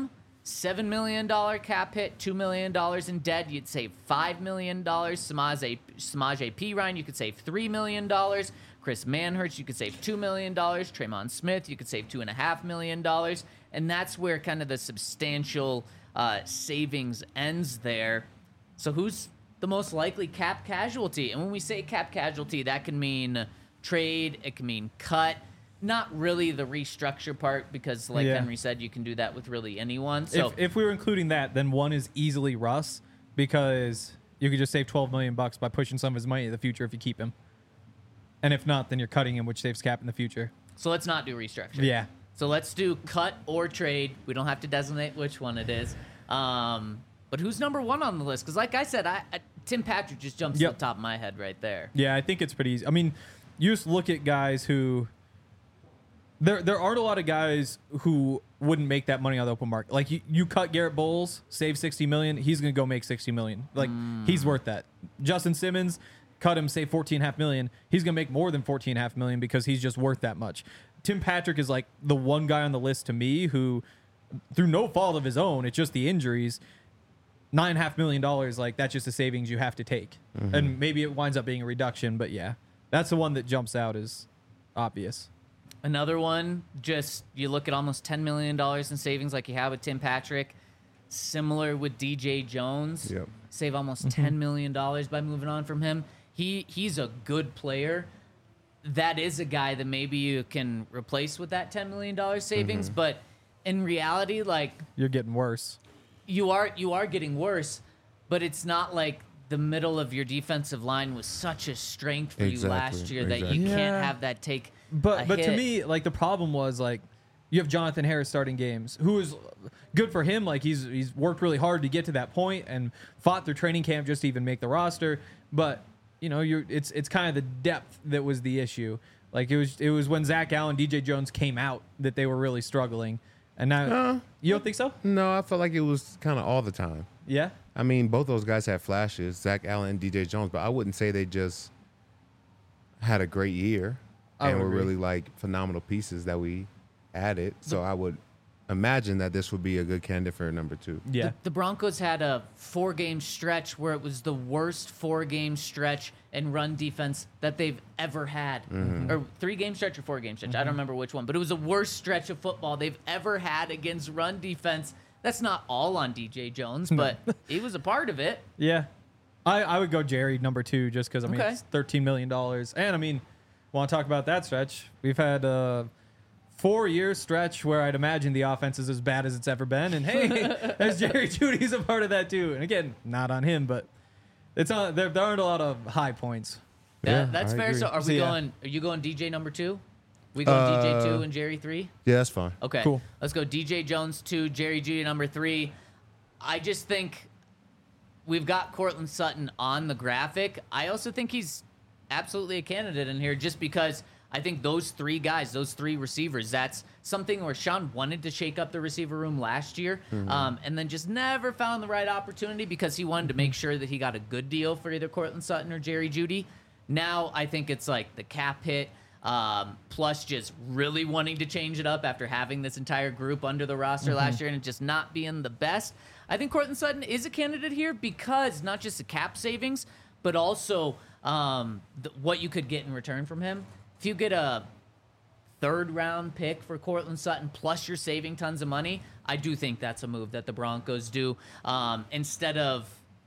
seven million dollars cap hit, two million dollars in debt. You'd save five million dollars. Samaje, Samaje Perine, you could save three million dollars. Chris Manhurst, you could save two million dollars. Tremon Smith, you could save two point five million dollars. And that's where kind of the substantial uh, savings ends there. So who's the most likely cap casualty? And when we say cap casualty, that can mean trade, it can mean cut. Not really the restructure part, because like Yeah. Henry said, you can do that with really anyone. So if, if we were including that, then one is easily Russ, because you could just save twelve million bucks by pushing some of his money in the future if you keep him. And if not, then you're cutting him, which saves cap in the future. so let's not do restructure. Yeah. So let's do cut or trade. We don't have to designate which one it is. Um, but who's number one on the list? Because like I said, I, I Tim Patrick just jumps Yep. to the top of my head right there. Yeah, I think it's pretty easy. I mean, you just look at guys who there there aren't a lot of guys who wouldn't make that money on the open market. Like you, you cut Garrett Bowles, save sixty million, he's gonna go make sixty million. Like he's worth that. Justin Simmons, cut him, save fourteen and a half million. He's gonna make more than fourteen and a half million because he's just worth that much. Tim Patrick is like the one guy on the list to me who, through no fault of his own, it's just the injuries. Nine and a half million dollars, like that's just a savings you have to take, and maybe it winds up being a reduction. But yeah, that's the one that jumps out as obvious. Another one, just you look at almost ten million dollars in savings like you have with Tim Patrick. Similar with D J Jones. Yep. Save almost ten million dollars by moving on from him. He He's a good player. That is a guy that maybe you can replace with that ten million dollars savings. But in reality, like, You're getting worse. you are you are getting worse, but it's not like the middle of your defensive line was such a strength for you Exactly, last year that you exactly. can't Yeah. have that take But a but to hit. me, like the problem was like you have Jonathan Harris starting games, who is good for him. Like he's he's worked really hard to get to that point and fought through training camp just to even make the roster. But you know, you're it's it's kind of the depth that was the issue. Like it was it was when Zach Allen, D J Jones came out that they were really struggling. And now Uh, you don't think so? No, I felt like it was kind of all the time. Yeah. I mean, both those guys had flashes, Zach Allen and D J Jones, but I wouldn't say they just had a great year I and would were agree. really like phenomenal pieces that we added. So I would imagine that this would be a good candidate for number two. Yeah. The, the Broncos had a four-game stretch where it was the worst four-game stretch in run defense that they've ever had. Or three-game stretch or four-game stretch. I don't remember which one. But it was the worst stretch of football they've ever had against run defense. That's not all on D J Jones, but he was a part of it. Yeah. I, I would go Jerry number two just because, I mean, Okay. it's thirteen million dollars. And, I mean, want to talk about that stretch? We've had a four-year stretch where I'd imagine the offense is as bad as it's ever been. And, hey, there's Jerry Judy's a part of that, too. And, again, not on him, but it's not, there, there aren't a lot of high points. That, Yeah, that's I fair. agree. So are we So, yeah. going, are you going D J number two? We going D J Uh, two and Jerry three? Yeah, that's fine. Okay. Cool. Let's go D J Jones two, Jerry Judy number three. I just think we've got Cortland Sutton on the graphic. I also think he's absolutely a candidate in here just because I think those three guys, those three receivers, that's something where Sean wanted to shake up the receiver room last year um, and then just never found the right opportunity because he wanted to make sure that he got a good deal for either Cortland Sutton or Jerry Judy. Now I think it's like the cap hit. Um, plus just really wanting to change it up after having this entire group under the roster last year and it just not being the best. I think Cortland Sutton is a candidate here because not just the cap savings, but also um, the, what you could get in return from him. If you get a third round pick for Cortland Sutton plus you're saving tons of money, I do think that's a move that the Broncos do um, instead of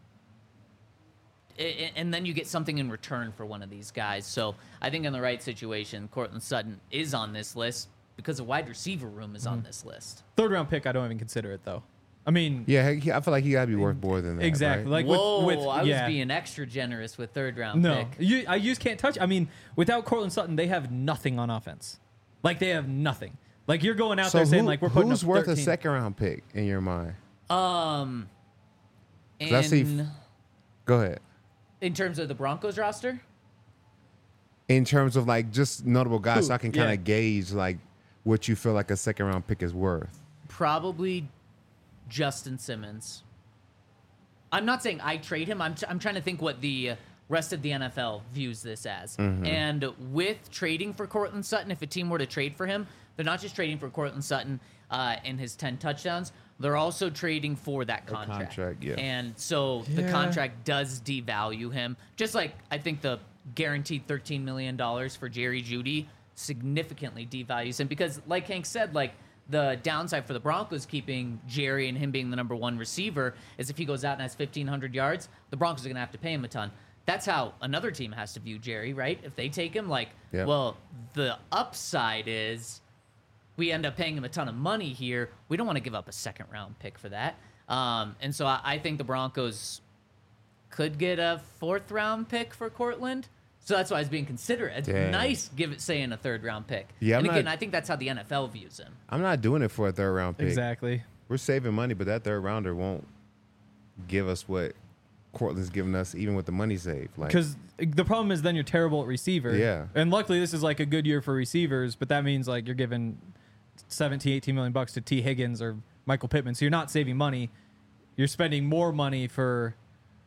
I- and then you get something in return for one of these guys. So I think in the right situation, Cortland Sutton is on this list because the wide receiver room is on this list. Third round pick, I don't even consider it, though. I mean, Yeah, he, I feel like he got to be worth more than that. exactly. right? Like Whoa, with, with I yeah. was being extra generous with third round No, pick. you, I you just can't touch. I mean, without Cortland Sutton, they have nothing on offense. Like they have nothing. Like you're going out So there saying who- like we're putting who's up worth thirteen. a second round pick in your mind? Um, 'Cause I see in, f- Go ahead. in terms of the Broncos roster, In terms of like just notable guys, Who? so I can kind of Yeah. gauge like what you feel like a second round pick is worth. probably Justin Simmons. I'm not saying I trade him. I'm, t- I'm trying to think what the rest of the N F L views this as. And with trading for Cortland Sutton, if a team were to trade for him, they're not just trading for Cortland Sutton uh, and his ten touchdowns, they're also trading for that contract. contract, yeah. And so the Yeah. contract does devalue him. Just like I think the guaranteed thirteen million dollars for Jerry Jeudy significantly devalues him because, like Hank said, like the downside for the Broncos keeping Jerry and him being the number one receiver is if he goes out and has fifteen hundred yards, the Broncos are going to have to pay him a ton. That's how another team has to view Jerry, right? If they take him, like, Yeah. well, the upside is we end up paying him a ton of money here. We don't want to give up a second round pick for that. Um, and so I, I think the Broncos could get a fourth round pick for Cortland. So that's why I was being considerate. It's Dang. nice give it saying a third round pick. Yeah, and I'm again, not- I think that's how the N F L views him. I'm not doing it for a third round pick. Exactly. We're saving money, but that third rounder won't give us what Cortland's giving us, even with the money saved. Like, Because the problem is then you're terrible at receiver. Yeah. And luckily this is like a good year for receivers, but that means like you're giving seventeen, eighteen million bucks to T. Higgins or Michael Pittman. So you're not saving money. You're spending more money for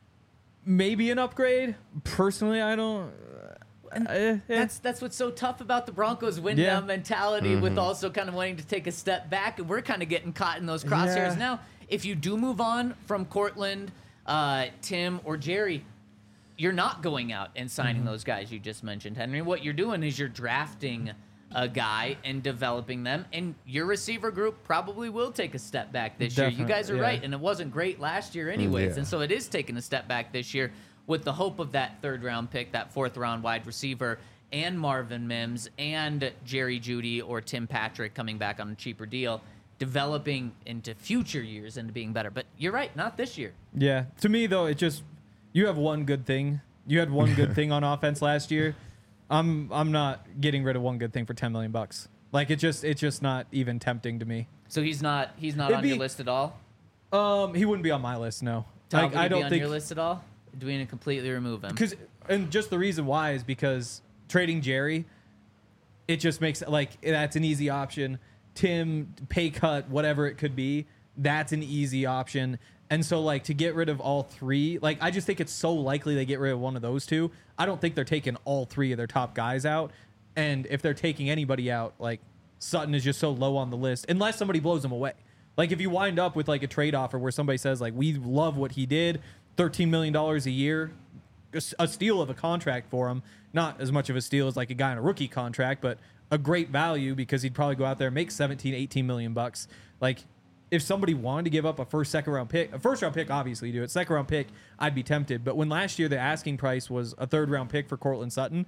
maybe an upgrade. Personally, I don't. Uh, eh, That's that's what's so tough about the Broncos win Yeah. down mentality with also kind of wanting to take a step back. And we're kind of getting caught in those crosshairs Yeah. now. If you do move on from Cortland, uh, Tim, or Jerry, you're not going out and signing those guys you just mentioned, Henry. What you're doing is you're drafting a guy and developing them, and your receiver group probably will take a step back this year. You Definitely, guys are yeah. right, and it wasn't great last year anyways, yeah. and so it is taking a step back this year with the hope of that third round pick, that fourth round wide receiver, and Marvin Mims and Jerry Jeudy or Tim Patrick coming back on a cheaper deal, developing into future years into being better. But you're right, not this year. Yeah. To me, though, it just you have one good thing. You had one good thing on offense last year. I'm I'm not getting rid of one good thing for ten million bucks. Like it just it's just not even tempting to me. So he's not he's not It'd on be- your list at all. Um, he wouldn't be on my list. No. Tom, Like, would I he don't be on think your list at all? Do we need to completely remove him? because and just the reason why is because trading Jerry, it just makes like that's an easy option. Tim, pay cut, whatever it could be, that's an easy option. And so like to get rid of all three, like I just think it's so likely they get rid of one of those two. I don't think they're taking all three of their top guys out. And if they're taking anybody out, like Sutton is just so low on the list, unless somebody blows him away. Like if you wind up with like a trade offer where somebody says like we love what he did, thirteen million dollars a year, a steal of a contract for him. Not as much of a steal as like a guy on a rookie contract, but a great value because he'd probably go out there and make seventeen, eighteen million bucks. Like if somebody wanted to give up a first, second round pick, a first round pick, obviously you do it. Second round pick, I'd be tempted. But when last year the asking price was a third round pick for Cortland Sutton,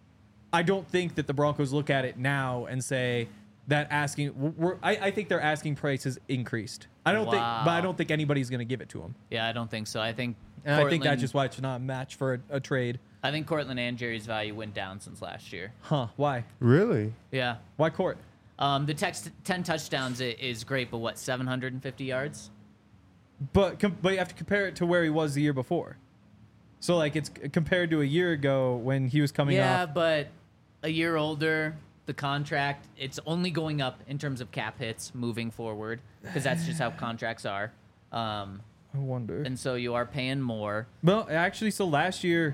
I don't think that the Broncos look at it now and say that asking, we're, I, I think their asking price has increased. I don't think, but I Wow. don't think anybody's going to give it to him. Yeah, I don't think so. I think And I think that's Cortland- just why it's not a match for a, a trade. I think Cortland and Jerry's value went down since last year. Huh? Why? really? Yeah. Why Court? Um, the text, ten touchdowns i- is great, but what, seven hundred fifty yards? But com- but you have to compare it to where he was the year before. So like it's c- compared to a year ago when he was coming Yeah, off. but a year older, the contract, it's only going up in terms of cap hits moving forward because that's just how contracts are. Um, I wonder. and so you are paying more. Well, actually, so last year,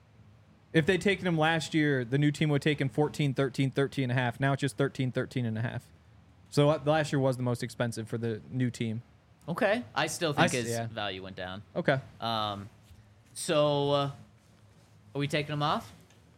if they'd taken him last year, the new team would have taken fourteen, thirteen, thirteen and a half. Now it's just thirteen, thirteen and a half. So uh, last year was the most expensive for the new team. Okay. I still I think s- his yeah. value went down. Okay. Um, so uh, are we taking him off?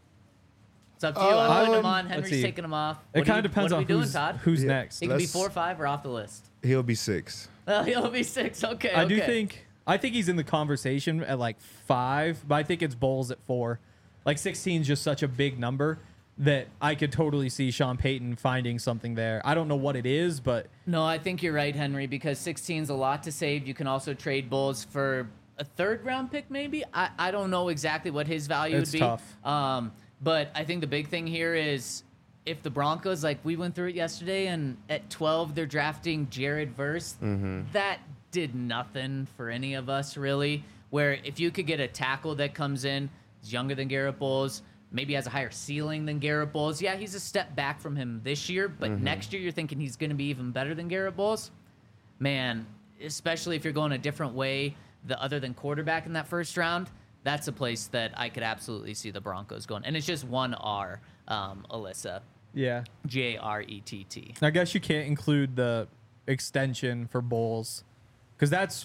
It's up to you. I'm putting him Um, on. let's Henry's see. taking him off. It What do kind you- of depends what are on we doing, who's, Todd? who's Yeah. next. He could be Let's- four or five or off the list. He'll be six. Well, he'll be six. Okay. I do okay. think I think he's in the conversation at like five, but I think it's Bowles at four. Like sixteen is just such a big number that I could totally see Sean Payton finding something there. I don't know what it is, but No, I think you're right, Henry, because sixteen is a lot to save. You can also trade Bulls for a third round pick, maybe. I, I don't know exactly what his value It's would be. tough. Um, but I think the big thing here is if the Broncos, like we went through it yesterday, and at twelve they're drafting Jared Verse, that did nothing for any of us really. Where if you could get a tackle that comes in, is younger than Garrett Bowles, maybe has a higher ceiling than Garrett Bowles. Yeah, he's a step back from him this year, but next year you're thinking he's going to be even better than Garrett Bowles. Man, especially if you're going a different way, the other than quarterback in that first round, that's a place that I could absolutely see the Broncos going. And it's just one R, um, Alyssa, yeah. J R E T T. I guess you can't include the extension for Bowles, because that's,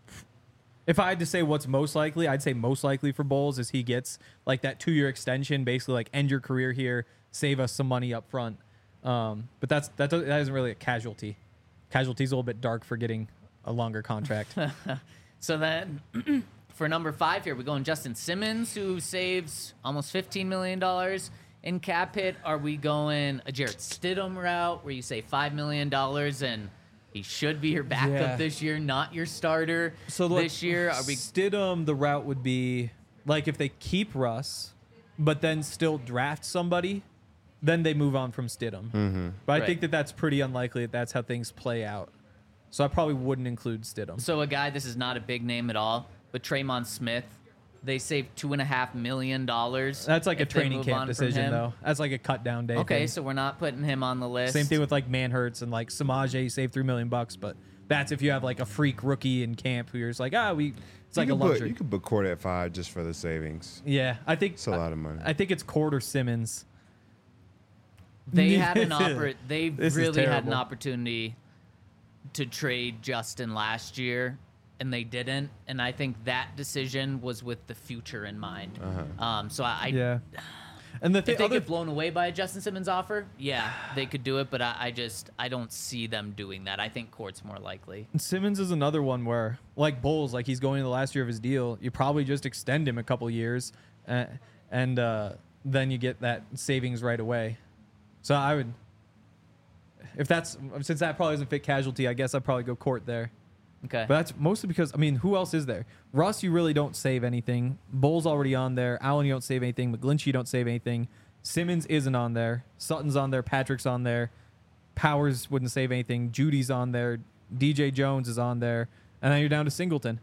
if I had to say what's most likely, I'd say most likely for Bowles is he gets like that two year extension, basically like end your career here, save us some money up front. Um, but that's that, that isn't really a casualty. Casualty's a little bit dark for getting a longer contract. So then, for number five here, we're going Justin Simmons, who saves almost fifteen million dollars in cap hit. Are we going a Jarrett Stidham route where you say five million dollars and he should be your backup Yeah. this year, not your starter So look, this year? Are we? Stidham, the route would be like if they keep Russ, but then still draft somebody, then they move on from Stidham. Mm-hmm. But I Right. think that that's pretty unlikely that that's how things play out. So I probably wouldn't include Stidham. So a guy, this is not a big name at all, but Traymon Smith, they saved two and a half million dollars. That's like a if they training move camp on from decision, him. though. That's like a cut down day. Okay, thing. so we're not putting him on the list. Same thing with like Manhurts and like Samaje, you save three million bucks, but that's if you have like a freak rookie in camp who you're just like, ah, we. It's like you a could put, luxury. you could put Cord at five just for the savings. Yeah, I think It's a lot of money. I think it's Cord or Simmons. They had an oppor- They This is really had an terrible. opportunity to trade Justin last year, and they didn't. And I think that decision was with the future in mind. Uh-huh. Um, so I, I Yeah. And the if thing, they other, get blown away by a Justin Simmons offer, yeah, they could do it. But I, I just I don't see them doing that. I think Court's more likely. Simmons is another one where, like Bulls, like he's going to the last year of his deal. You probably just extend him a couple years, uh, and uh, then you get that savings right away. So I would, if that's since that probably doesn't fit casualty, I guess I'd probably go Court there. Okay. But that's mostly because, I mean, who else is there? Russ, you really don't save anything. Bull's already on there. Allen, you don't save anything. McGlinchey, you don't save anything. Simmons isn't on there. Sutton's on there. Patrick's on there. Powers wouldn't save anything. Judy's on there. D J Jones is on there. And then you're down to Singleton.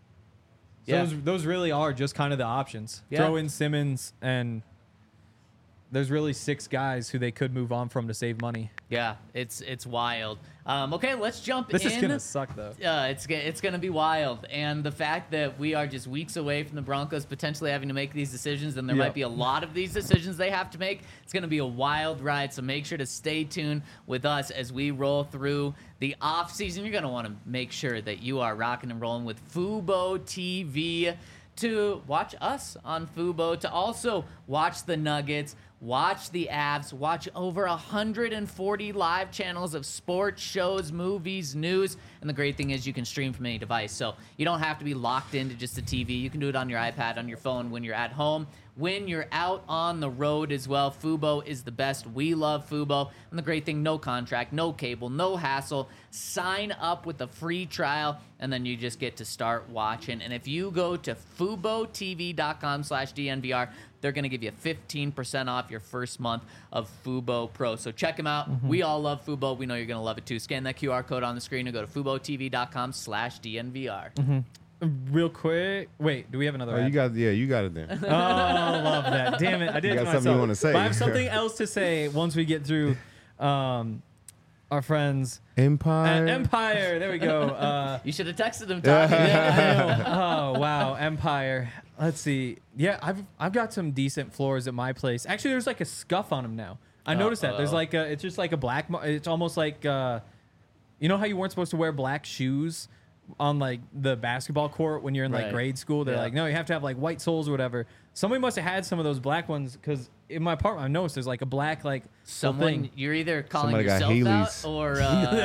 So Yeah. those, those really are just kind of the options. Yeah. Throw in Simmons, and there's really six guys who they could move on from to save money. Yeah, it's it's wild. Um, okay, let's jump This in. is going to suck, though. Uh, it's g- it's going to be wild, and the fact that we are just weeks away from the Broncos potentially having to make these decisions, and there Yep. might be a lot of these decisions they have to make. It's going to be a wild ride, so make sure to stay tuned with us as we roll through the off season. You're going to want to make sure that you are rocking and rolling with Fubo T V to watch us on Fubo, to also watch the Nuggets, watch the Avs, watch over one hundred forty live channels of sports, shows, movies, news. And the great thing is you can stream from any device. So you don't have to be locked into just a T V. You can do it on your iPad, on your phone, when you're at home, when you're out on the road as well. Fubo is the best. We love Fubo. And the great thing, no contract, no cable, no hassle. Sign up with a free trial, and then you just get to start watching. And if you go to FuboTV.com slash DNVR, they're going to give you fifteen percent off your first month of Fubo Pro. So check them out. We all love Fubo. We know you're going to love it too. Scan that Q R code on the screen and go to FuboTV.com slash DNVR. Real quick. Wait, do we have another Oh, ad? you got yeah, you got it then. Oh, I love that. Damn it. I did You it got to something you myself. wanna say. But I have something else to say once we get through um, our friends Empire. at Empire. There we go. Uh, You should have texted him, Tommy. oh, wow. Empire. Let's see. Yeah, I've I've got some decent floors at my place. Actually, there's like a scuff on them now. I noticed that. There's Uh-oh. like a, it's just like a black, mar- it's almost like, uh, you know how you weren't supposed to wear black shoes on like the basketball court when you're in like Right. grade school? They're Yeah. like, no, you have to have like white soles or whatever. Somebody must have had some of those black ones because in my apartment, I noticed there's like a black, like, Someone, thing. you're either calling Somebody got yourself out Heelys. or...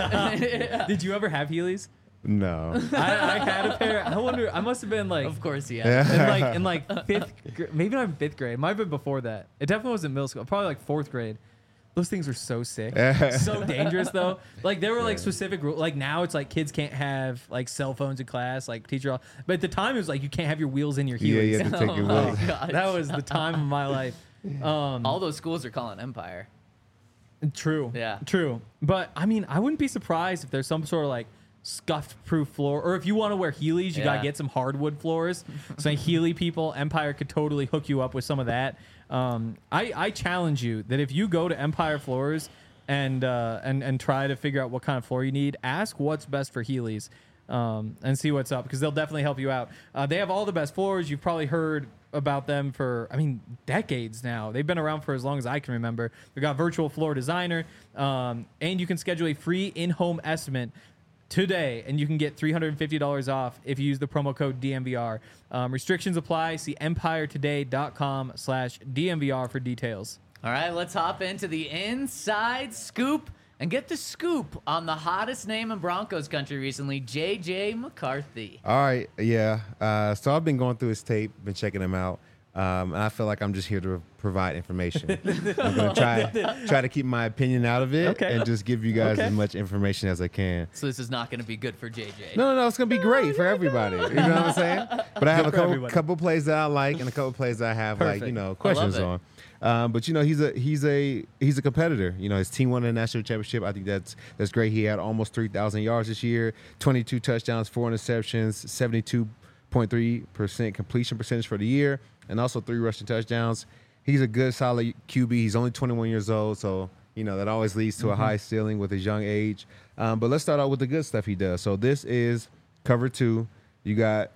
Uh, Did you ever have Heelys? No. I, I had a pair. I wonder, I must have been like, of course, yeah. in like in like fifth, gr- maybe not in fifth grade. It might have been before that. It definitely wasn't middle school. Probably like fourth grade. Those things were so sick, so dangerous though. Like there were like Yeah. specific rules. Like now it's like kids can't have like cell phones in class. Like teacher, but at the time it was like you can't have your wheels in your Yeah, Heelys. you have to take your Oh, wheel. gosh. That was the time of my life. Um, All those schools are calling Empire. True. Yeah. True. But I mean, I wouldn't be surprised if there's some sort of like scuffed proof floor, or if you want to wear Heelys, you gotta Yeah. get some hardwood floors. So Heely people, Empire could totally hook you up with some of that. Um, I, I challenge you that if you go to Empire Floors and uh, and and try to figure out what kind of floor you need, ask what's best for Heelys. Um, and see what's up, because they'll definitely help you out. Uh, they have all the best floors. You've probably heard about them for, I mean, decades now. They've been around for as long as I can remember. They've got virtual floor designer, um, and you can schedule a free in-home estimate today, and you can get three hundred fifty dollars off if you use the promo code D M V R. Um, restrictions apply. See empiretoday.com slash DMVR for details. All right, let's hop into the inside scoop and get the scoop on the hottest name in Broncos country recently, J J McCarthy. All right, yeah. Uh, so I've been going through his tape, been checking him out, um, and I feel like I'm just here to provide information. I'm gonna try try to keep my opinion out of it Okay. and just give you guys Okay. as much information as I can. So this is not going to be good for J J. No, no, no, it's gonna be great for everybody. You know what I'm saying? But I have a for couple, everybody. couple plays that I like and a couple plays that I have like Perfect. you know questions it. on. Um, but you know he's a he's a he's a competitor. You know his team won the national championship. I think that's that's great. He had almost three thousand yards this year, twenty-two touchdowns, four interceptions, seventy-two point three percent completion percentage for the year, and also three rushing touchdowns. He's a good, solid Q B. He's only twenty-one years old, so you know that always leads to a high ceiling with his young age. Um, but let's start out with the good stuff he does. So this is cover two. You got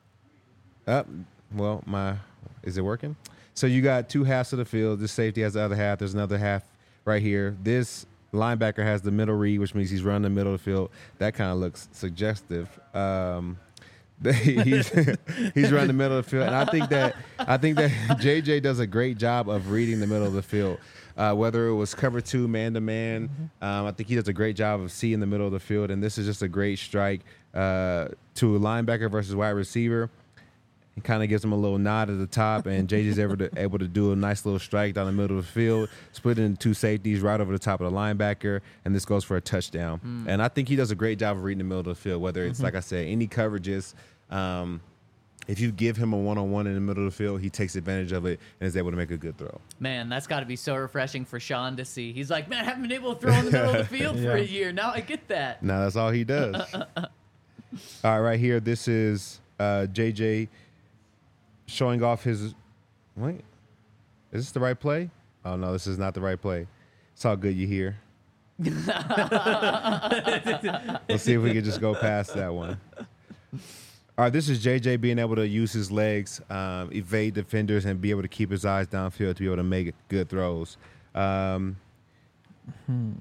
up. well, my is it working? So you got two halves of the field. This safety has the other half. There's another half right here. This linebacker has the middle read, which means he's running the middle of the field. That kind of looks suggestive. Um, he's he's running the middle of the field, and I think that I think that J J does a great job of reading the middle of the field. Uh, whether it was cover two, man to man, um, I think he does a great job of seeing the middle of the field, and this is just a great strike uh, to a linebacker versus wide receiver. He kind of gives him a little nod at the top, and J J's able to able to do a nice little strike down the middle of the field, split it into two safeties right over the top of the linebacker, and this goes for a touchdown. Mm. And I think he does a great job of reading the middle of the field, whether it's, mm-hmm. like I said, any coverages. Um, if you give him a one-on-one in the middle of the field, he takes advantage of it and is able to make a good throw. Man, that's got to be so refreshing for Sean to see. He's like, man, I haven't been able to throw in the middle of the field Yeah. for a year. Now I get that. Now that's all he does. All right, right here, this is uh, J J showing off his. Wait, is this the right play? Oh no, this is not the right play. It's all good. You hear? Let's see if we can just go past that one. All right, this is J J being able to use his legs, um, evade defenders, and be able to keep his eyes downfield to be able to make good throws. Um, Hmm.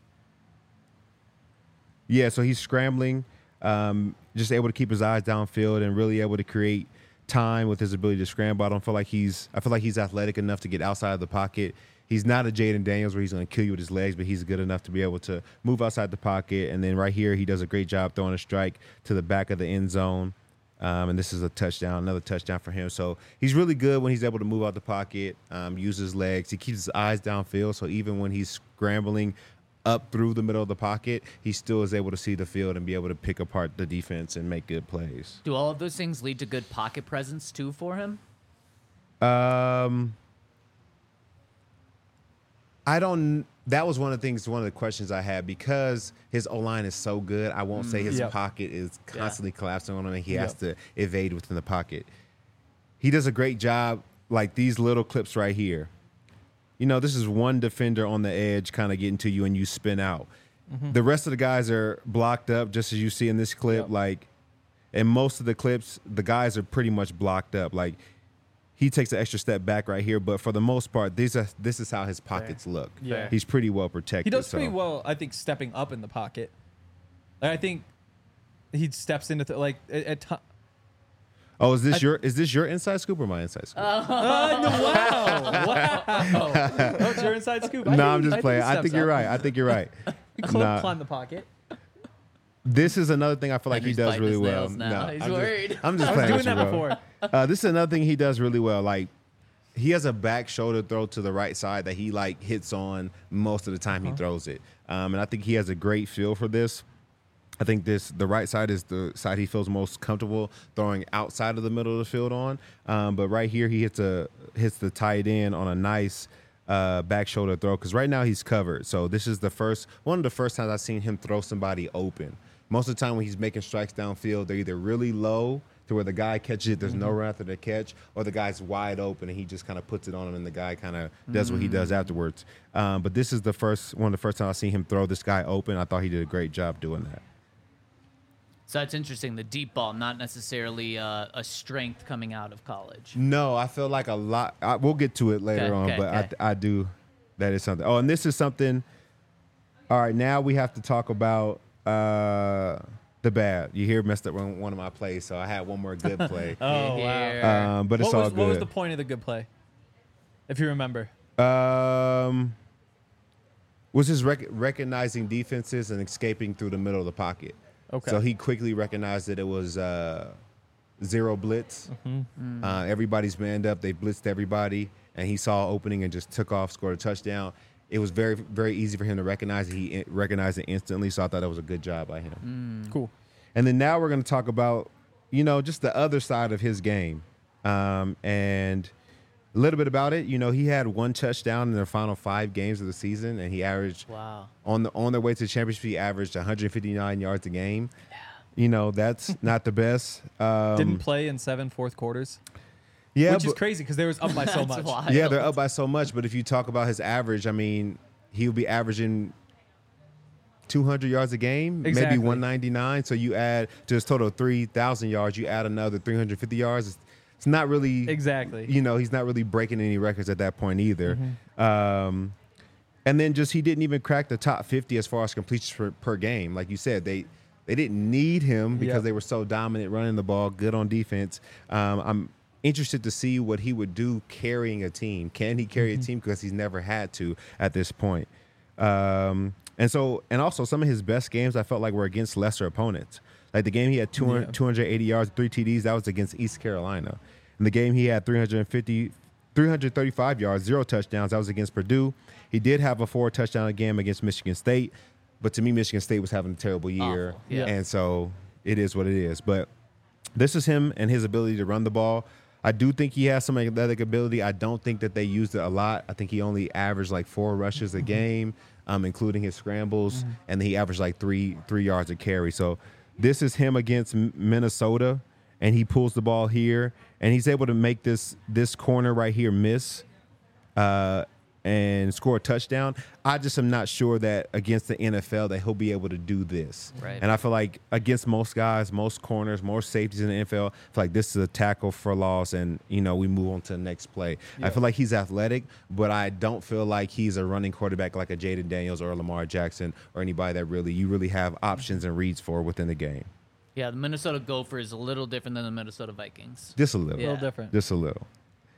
Yeah, so he's scrambling, um, just able to keep his eyes downfield and really able to create time with his ability to scramble. I don't feel like he's I feel like he's athletic enough to get outside of the pocket. He's not a Jaden Daniels where he's going to kill you with his legs, but he's good enough to be able to move outside the pocket. And then right here, he does a great job throwing a strike to the back of the end zone. Um, and this is a touchdown, another touchdown for him. So he's really good when he's able to move out the pocket, um, use his legs. He keeps his eyes downfield, so even when he's scrambling up through the middle of the pocket, he still is able to see the field and be able to pick apart the defense and make good plays. Do all of those things lead to good pocket presence too for him? Um, I don't. That was one of the things, one of the questions I had because his O line is so good. I won't say his Yep. pocket is constantly collapsing on him, and he has Yep. to evade within the pocket. He does a great job, like these little clips right here. You know, this is one defender on the edge, kind of getting to you, and you spin out. Mm-hmm. The rest of the guys are blocked up, just as you see in this clip. Yep. Like, in most of the clips, the guys are pretty much blocked up. Like, he takes an extra step back right here, but for the most part, these are this is how his pockets look. Yeah. He's pretty well protected. He does so. pretty well, I think, stepping up in the pocket. Like, I think he steps into th- like at, at ti- Oh, is this I- your is this your inside scoop or my inside scoop? Uh, no, wow, wow. Oh, it's your inside scoop. I no, think- I'm just I playing. he I steps think you're up. right. I think you're right. He cl- Nah. climb the pocket. This is another thing I feel like Henry's he does biting really his well. nails now. He's I'm worried. Just, I'm just I was playing doing with you, that bro. before. Uh, this is another thing he does really well. Like, he has a back shoulder throw to the right side that he like hits on most of the time Uh-huh. he throws it. Um, and I think he has a great feel for this. I think this the right side is the side he feels most comfortable throwing outside of the middle of the field on. Um, but right here he hits a hits the tight end on a nice uh, back shoulder throw because right now he's covered. So this is the first one of the first times I've seen him throw somebody open. Most of the time when he's making strikes downfield, they're either really low to where the guy catches it, there's Mm-hmm. no run after the catch, or the guy's wide open and he just kind of puts it on him and the guy kind of does what he does Mm. afterwards. Um, but this is the first one of the first time I've seen him throw this guy open. I thought he did a great job doing that. So that's interesting. The deep ball, not necessarily uh, a strength coming out of college. No, I feel like a lot. I, we'll get to it later Okay, on, okay, but okay. I, I do. That is something. Oh, and this is something. All right, now we have to talk about uh, the bad. You hear messed up one one of my plays, so I had one more good play. Oh, Here. wow. um, but it's what, all was, good. what was the point of the good play? If you remember. Um, was just rec- recognizing defenses and escaping through the middle of the pocket. Okay. So he quickly recognized that it was uh, zero blitz. Mm-hmm. Uh, everybody's manned up. They blitzed everybody, and he saw opening and just took off, scored a touchdown. It was very, very easy for him to recognize it. He recognized it instantly, so I thought that was a good job by him. Cool. And then now we're going to talk about, you know, just the other side of his game. Um, and a little bit about it. You know, he had one touchdown in the final five games of the season, and he averaged Wow. on the on their way to the championship. He averaged one hundred fifty-nine yards a game. You know, that's not the best. Um, Didn't play in seven fourth quarters, yeah, which is but- crazy because they was up by so That's much. wild. Yeah, they're up by so much. But if you talk about his average, I mean, he'll be averaging two hundred yards a game, Exactly. maybe one ninety-nine. So you add to his total of three thousand yards, you add another three hundred fifty yards. It's, it's not really Exactly. You know, he's not really breaking any records at that point either. Mm-hmm. Um, and then just he didn't even crack the top fifty as far as completions per, per game. Like you said, they they didn't need him because Yeah. they were so dominant running the ball, good on defense. Um, I'm interested to see what he would do carrying a team. Can he carry Mm-hmm. a team? Because he's never had to at this point. Um, and so, and also some of his best games I felt like were against lesser opponents. Like the game he had two hundred, Yeah. two hundred eighty yards, three T Ds, that was against East Carolina. In the game he had three hundred fifty, three hundred thirty-five yards, zero touchdowns, that was against Purdue. He did have a four touchdown game against Michigan State, but to me, Michigan State was having a terrible year. Awful, yeah. And so it is what it is. But this is him and his ability to run the ball. I do think he has some athletic ability. I don't think that they used it a lot. I think he only averaged like four rushes a game, um, including his scrambles, and he averaged like three three yards a carry. So this is him against M- Minnesota, and he pulls the ball here, and he's able to make this this corner right here miss. Uh, and score a touchdown. I just am not sure that against the N F L that he'll be able to do this. Right. And I feel like against most guys, most corners, most safeties in the N F L, I feel like this is a tackle for loss, and you know we move on to the next play. I feel like he's athletic, but I don't feel like he's a running quarterback like a Jaden Daniels or a Lamar Jackson or anybody that really you really have options and reads for within the game. Yeah, the Minnesota Gopher is a little different than the Minnesota Vikings. Just a little. A Yeah. little different. Just a little.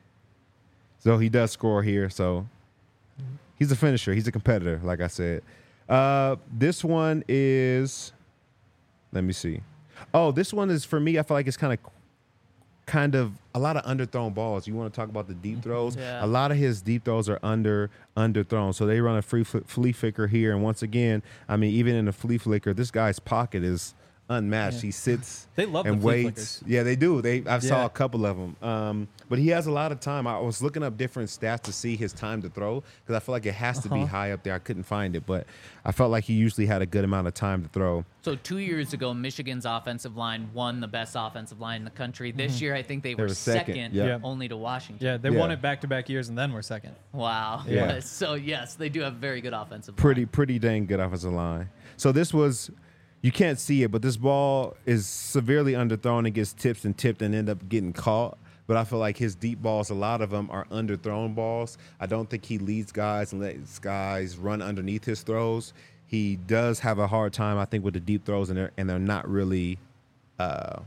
So he does score here. So he's a finisher. He's a competitor, like I said. Uh, this one is, let me see. Oh, this one is for me. I feel like it's kind of, kind of a lot of underthrown balls. You want to talk about the deep throws? Yeah. A lot of his deep throws are under underthrown. So they run a free fl- flea flicker here, and once again, I mean, even in a flea flicker, this guy's pocket is unmatched. Yeah. He sits They love and the flea waits. flickers. Yeah, they do. They I saw Yeah. a couple of them. Um, but he has a lot of time. I was looking up different stats to see his time to throw because I feel like it has to be Uh-huh. high up there. I couldn't find it, but I felt like he usually had a good amount of time to throw. So two years ago, Michigan's offensive line won the best offensive line in the country. This year, I think they were were second, second, yeah. Yeah. only to Washington. Yeah, they Yeah. won it back to back years and then we're second. Wow. Yeah. So yes, they do have very good offensive Pretty, line. pretty dang good offensive line. So this was, you can't see it, but this ball is severely underthrown and gets tipped and tipped and end up getting caught. But I feel like his deep balls, a lot of them are underthrown balls. I don't think he leads guys and lets guys run underneath his throws. He does have a hard time, I think, with the deep throws, and they're, and they're not really uh,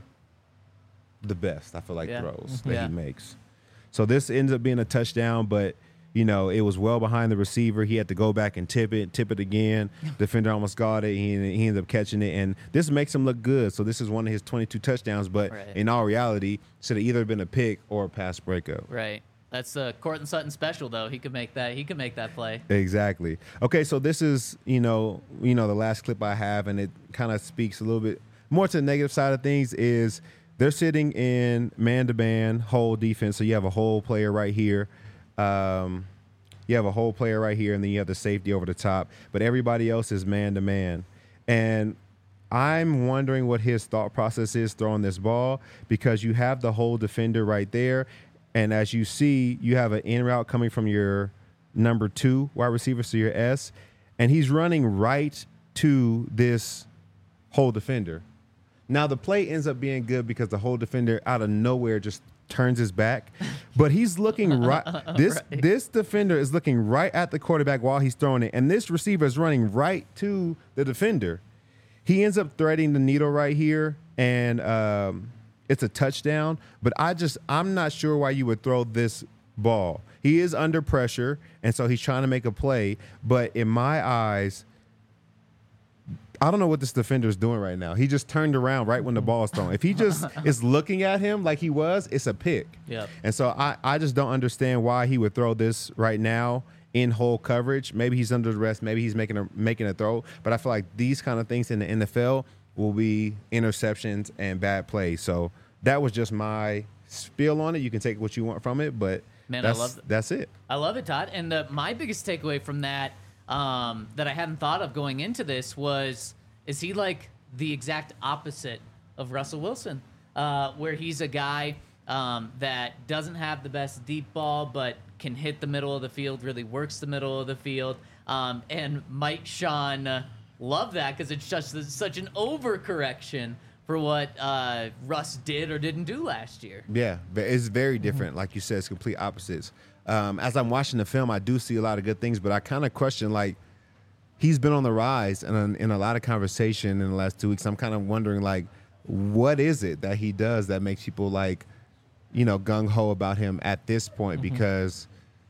the best, I feel like, Yeah. throws that Yeah. he makes. So this ends up being a touchdown, but, you know, it was well behind the receiver. He had to go back and tip it, tip it again. Defender almost got it. He, he ended up catching it, and this makes him look good. So this is one of his twenty-two touchdowns, but Right. in all reality, should have either been a pick or a pass breakup. Right. That's the Cortland Sutton special, though. He could make that. He could make that play. Exactly. Okay, so this is, you know, you know, the last clip I have, and it kind of speaks a little bit more to the negative side of things is they're sitting in man-to-man whole defense. So you have a whole player right here. Um, you have a whole player right here, and then you have the safety over the top. But everybody else is man-to-man. And I'm wondering what his thought process is throwing this ball because you have the whole defender right there. And as you see, you have an in route coming from your number two wide receiver, so your S, and he's running right to this whole defender. Now the play ends up being good because the whole defender out of nowhere just turns his back, but he's looking right. This Right. this defender is looking right at the quarterback while he's throwing it, and this receiver is running right to the defender. He ends up threading the needle right here, and um, it's a touchdown. But I just I'm not sure why you would throw this ball. He is under pressure, and so he's trying to make a play. But in my eyes, I don't know what this defender is doing right now. He just turned around right when the ball is thrown. If he just is looking at him like he was, it's a pick. Yep. And so I, I just don't understand why he would throw this right now in whole coverage. Maybe he's under duress. Maybe he's making a making a throw. But I feel like these kind of things in the N F L will be interceptions and bad plays. So that was just my spiel on it. You can take what you want from it, but Man, I that's, love th- that's it. I love it, Todd. And the, my biggest takeaway from that um, that I hadn't thought of going into this was, is he like the exact opposite of Russell Wilson, uh, where he's a guy um, that doesn't have the best deep ball, but can hit the middle of the field, really works the middle of the field, um, and might Sean uh, love that because it's just such an overcorrection for what uh, Russ did or didn't do last year. Yeah, but it's very different. Like you said, it's complete opposites. Um, as I'm watching the film, I do see a lot of good things, but I kind of question, like, he's been on the rise and in a lot of conversation in the last two weeks. I'm kind of wondering, like, what is it that he does that makes people, like, you know, gung-ho about him at this point? Mm-hmm. Because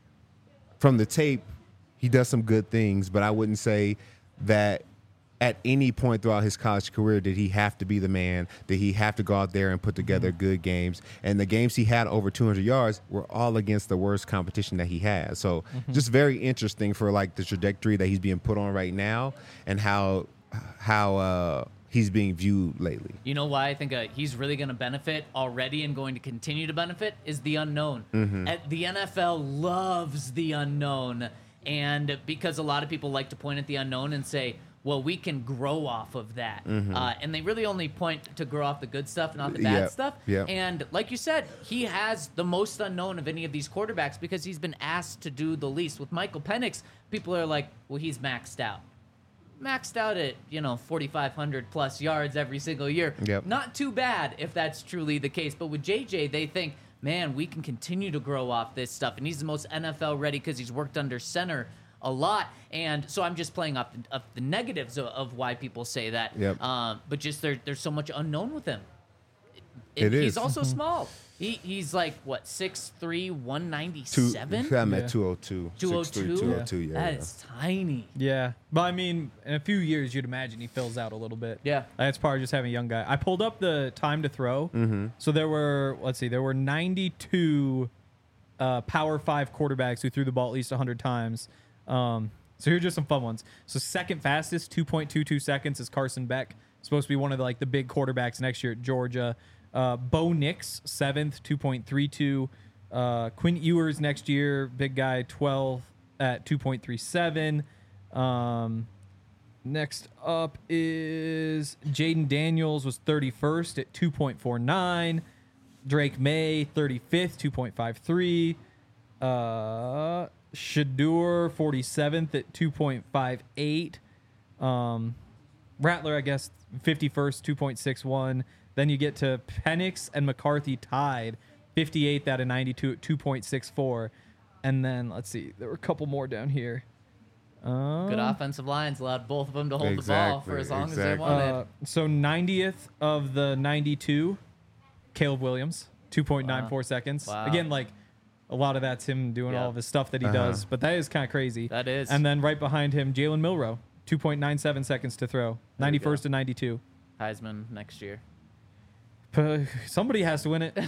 from the tape, he does some good things, but I wouldn't say that at any point throughout his college career did he have to be the man, did he have to go out there and put together Mm-hmm. good games. And the games he had over two hundred yards were all against the worst competition that he had. So Mm-hmm. just very interesting for like the trajectory that he's being put on right now and how how uh, he's being viewed lately. You know why I think uh, he's really going to benefit already and going to continue to benefit is the unknown. Mm-hmm. Uh, the N F L loves the unknown. And because a lot of people like to point at the unknown and say, well, we can grow off of that. Uh, and they really only point to grow off the good stuff, not the bad Yep, stuff. yep. And like you said, he has the most unknown of any of these quarterbacks because he's been asked to do the least. With Michael Penix, people are like, well, he's maxed out. Maxed out at, you know, forty-five hundred plus yards every single year. Yep. Not too bad if that's truly the case. But with J J, they think, man, we can continue to grow off this stuff. And he's the most N F L ready because he's worked under center a lot. And so I'm just playing off the, of the negatives of, of why people say that. Yep. Um, but just there, there's so much unknown with him. It He's is. also small. He He's like, what, six three, one Two, ninety-seven? I'm Yeah. at two oh two. two oh two? two oh two, yeah. That yeah. is tiny. Yeah, but I mean, in a few years, you'd imagine he fills out a little bit. Yeah. That's part of just having a young guy. I pulled up the time to throw. Mm-hmm. So there were, let's see, there were ninety-two uh, Power Five quarterbacks who threw the ball at least one hundred times. Um, so here's just some fun ones. So second fastest, two point two two seconds, is Carson Beck. Supposed to be one of the, like the big quarterbacks next year at Georgia. Uh, Bo Nix, seventh, two point three two. Uh, Quinn Ewers next year, big guy, twelve at two point three seven. Um, next up is Jaden Daniels was thirty-first at two point four nine. Drake May, thirty-fifth, two point five three. Uh, Shadur, forty-seventh at two point five eight. Um, Rattler, I guess, fifty-first, two point six one. Then you get to Penix and McCarthy tied, fifty-eighth out of ninety-two at two point six four. And then, let's see, there were a couple more down here. Um, Good offensive lines allowed both of them to hold the ball for Exactly, as long exactly. as they wanted. Uh, so ninetieth of the ninety-two, Caleb Williams, two point nine four seconds. Wow. Again, like a lot of that's him doing Yeah. all of his stuff that he Uh-huh. does, but that is kind of crazy. That is. And then right behind him, Jalen Milrow, two point nine seven seconds to throw, ninety-first to ninety-two. Heisman next year. P- Somebody has to win it.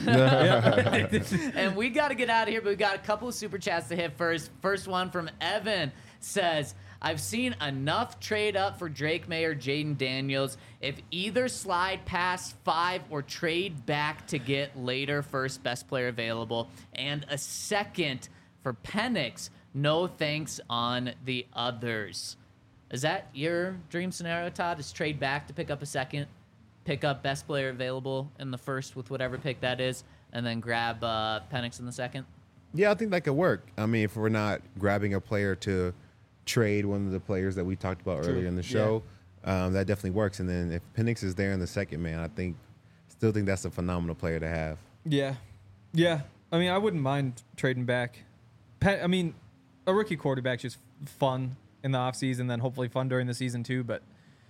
And we got to get out of here, but we got a couple of super chats to hit first. First one from Evan says, I've seen enough trade up for Drake May or Jaden Daniels. If either slide past five or trade back to get later first best player available and a second for Penix, no thanks on the others. Is that your dream scenario, Todd? Is trade back to pick up a second, pick up best player available in the first with whatever pick that is, and then grab uh, Penix in the second? Yeah, I think that could work. I mean, if we're not grabbing a player to trade one of the players that we talked about True. earlier in the show, um, that definitely works. And then if Penix is there in the second, man, I think still think that's a phenomenal player to have. Yeah. Yeah. I mean, I wouldn't mind trading back. Pe- I mean, a rookie quarterback's just fun in the offseason, then hopefully fun during the season too. But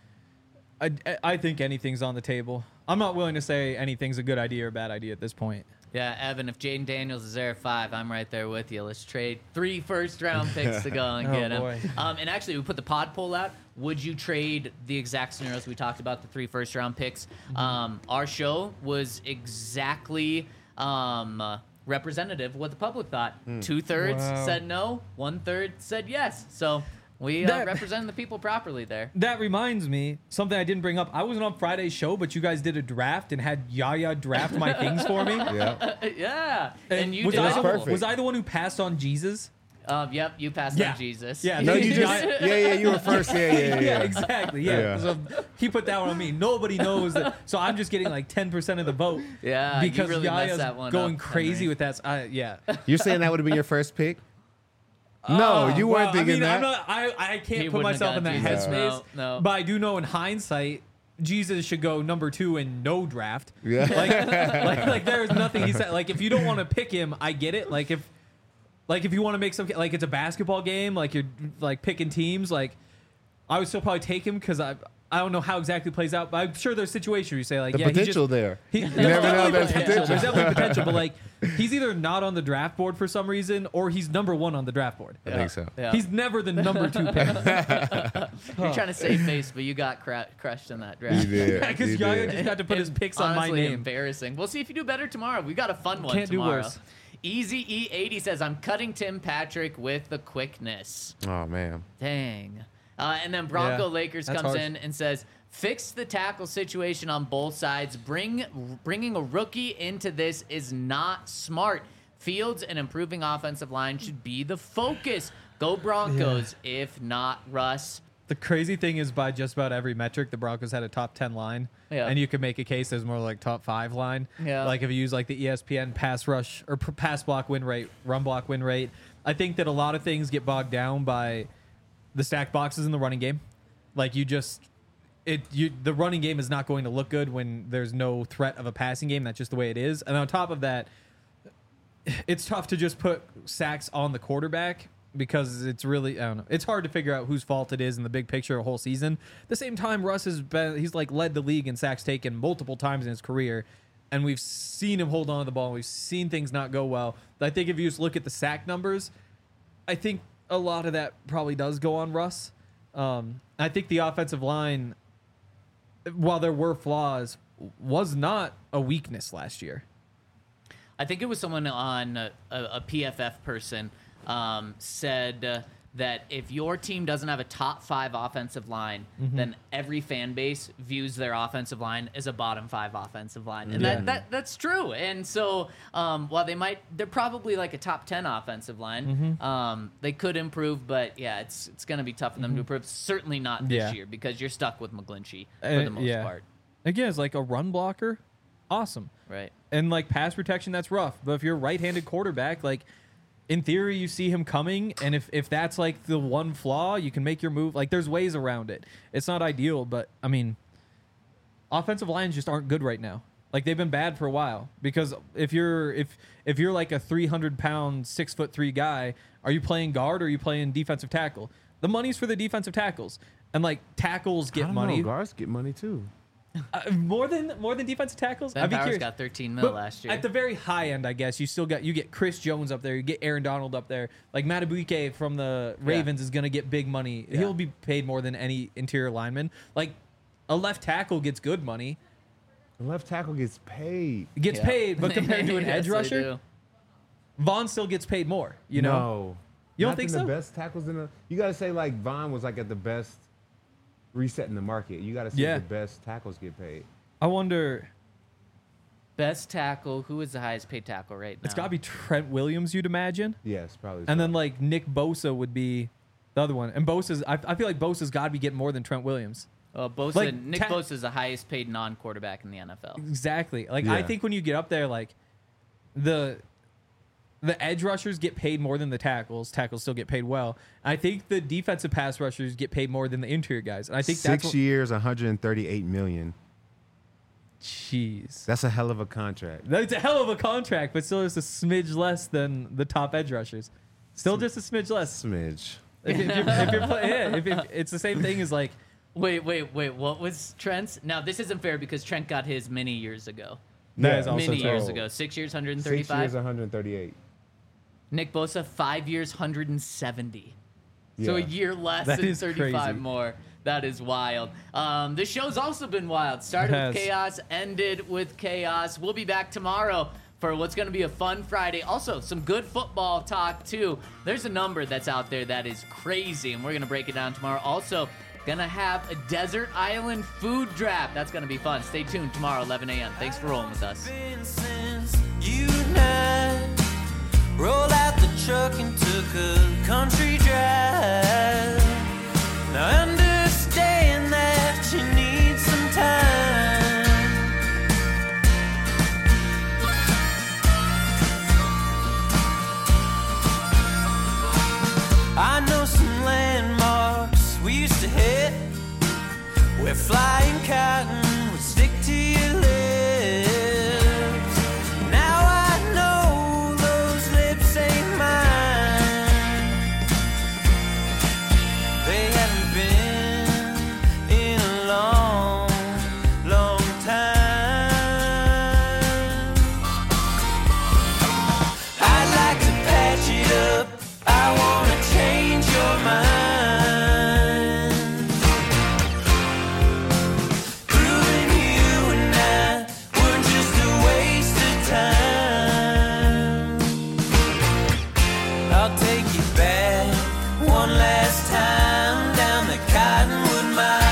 I, I think anything's on the table. I'm not willing to say anything's a good idea or bad idea at this point. Yeah, Evan, if Jaden Daniels is there at five, I'm right there with you. Let's trade three first-round picks to go and Oh, get him. boy. Um, and actually, we put the pod poll out. Would you trade the exact scenarios we talked about, the three first-round picks? Um, our show was exactly um, uh, representative of what the public thought. Two-thirds Wow. said no, one-third said yes. So we uh, That- represented the people properly there. That reminds me, something I didn't bring up. I wasn't on Friday's show, but you guys did a draft and had Yaya draft my things for me. Yeah. yeah, and, you was, did I That's the, awful. perfect. was I the one who passed on Jesus? Um, yep, you passed Yeah. on Jesus. Yeah, No, you just Yaya- yeah, yeah, you were first. Yeah, yeah, yeah. yeah, exactly. Yeah. Yeah. So he put that one on me. Nobody knows that. So I'm just getting like ten percent of the vote. Yeah, you because really messed Yaya's that one going up, crazy Henry. with that. I, yeah. You're saying that would have been your first pick? No, Oh, you weren't well, thinking I that. mean, I'm not, I, I can't He put wouldn't have myself in that gotten Jesus. headspace. No, no. But I do know in hindsight, Jesus should go number two in no draft. Yeah. Like, like, like there's nothing he said. Like, if you don't want to pick him, I get it. Like, if, like, if you want to make some, like, it's a basketball game, like you're like picking teams, like, I would still probably take him because I, I don't know how exactly it plays out, but I'm sure there's situations where you say like, The yeah, he just- potential there. He, You never know. There's potential. There's definitely potential, but like he's either not on the draft board for some reason, or he's number one on the draft board. I think so. Yeah. He's never the number two pick. You're trying to save face, but you got cra- crushed in that draft. You did. Because You Yaya did. just got to put his picks on my Honestly, name. embarrassing. We'll see if you do better tomorrow. We got a fun one Can't do tomorrow. worse. Easy E eighty says, I'm cutting Tim Patrick with the quickness. Oh man. Dang. Uh, and then Bronco Yeah, Lakers that's comes harsh. in and says, fix the tackle situation on both sides. Bring Bringing a rookie into this is not smart. Fields and improving offensive line should be the focus. Go Broncos, if not Russ. The crazy thing is, by just about every metric, the Broncos had a top ten line, Yeah. and you could make a case as more like top five line. Yeah. Like if you use like the E S P N pass rush or p- pass block win rate, run block win rate. I think that a lot of things get bogged down by the stack boxes in the running game. Like you just, it you the running game is not going to look good when there's no threat of a passing game. That's just the way it is. And on top of that, it's tough to just put sacks on the quarterback because it's really, I don't know. It's hard to figure out whose fault it is in the big picture a whole season. At the same time, Russ has been, he's like led the league in sacks taken multiple times in his career. And we've seen him hold on to the ball. We've seen things not go well. I think if you just look at the sack numbers, I think a lot of that probably does go on Russ. Um, I think the offensive line, while there were flaws, was not a weakness last year. I think it was someone on a, a, a P F F person um, said uh, that if your team doesn't have a top five offensive line, Mm-hmm. then every fan base views their offensive line as a bottom five offensive line, and Yeah. that, that that's true. And so, um, while they might, they're probably like a top ten offensive line. Mm-hmm. Um, they could improve, but yeah, it's it's going to be tough for them to improve. Certainly not this Yeah. year because you're stuck with McGlinchey for Uh, the most yeah. part, Again, it's like a run blocker, awesome. right? And like pass protection, that's rough. But if you're a right-handed quarterback, like in theory, you see him coming, and if if that's like the one flaw, you can make your move. Like there's ways around it. It's not ideal, but I mean, offensive lines just aren't good right now. Like they've been bad for a while because if you're if if you're like a three hundred pound, six foot three guy, are you playing guard or are you playing defensive tackle? The money's for the defensive tackles, and like tackles I get don't money know, guards get money too. uh, more than more than defensive tackles. Ben I'd be Powers curious. got thirteen mil But last year. At the very high end, I guess you still got you get Chris Jones up there, you get Aaron Donald up there. Like Matabuike from the Ravens is going to get big money. Yeah. He'll be paid more than any interior lineman. Like a left tackle gets good money, The left tackle gets paid. gets Yeah. paid, but compared to an Yes, edge they rusher, do. Vaughn still gets paid more. You know, No. You don't Not think than so? The best tackles in the. You got to say like Vaughn was like at the best reset in the market. You got to say Yeah. the best tackles get paid. I wonder. Best tackle. Who is the highest paid tackle right now? It's got to be Trent Williams, you'd imagine, Yes, probably. and so. then like Nick Bosa would be the other one. And Bosa's, I, I feel like Bosa's got to be getting more than Trent Williams. Uh, Bosa, like, Nick ta- Bosa is the highest paid non-quarterback in the N F L. Exactly. Like I Yeah. think when you get up there, like the the edge rushers get paid more than the tackles. Tackles still get paid well. I think the defensive pass rushers get paid more than the interior guys. And I think Six that's what, years, one hundred thirty-eight million. Jeez. That's a hell of a contract. That's a hell of a contract, but still just a smidge less than the top edge rushers. Still just a smidge less. Smidge. If, if you're, if you're play, yeah, if, if it's the same thing as like, Wait, wait, wait. What was Trent's? Now, this isn't fair because Trent got his many years ago. that Yeah. is also Many true. years ago. Six years, Six years, one thirty-five. one hundred thirty-eight. Nick Bosa, five years, one hundred seventy. So a Yeah. year less That and is thirty-five crazy. more. That is wild. Um, this show's also been wild. Started It with has. chaos, ended with chaos. We'll be back tomorrow for what's going to be a fun Friday. Also, some good football talk, too. There's a number that's out there that is crazy, and we're going to break it down tomorrow. Also, going to have a desert island food draft. That's going to be fun. Stay tuned tomorrow, eleven a.m. Thanks for rolling with us. Been since you and I rolled out the truck and took a country drive. Now understand that you need some time. I know some landmarks we used to hit where flying cotton would stick to your lips. Now I know those lips ain't mine. They haven't been in a long, long time. I'd like to patch it up. I wanna change your mind. Proving you and I were just a waste of time. I'll take you back one last time down the Cottonwood Mile.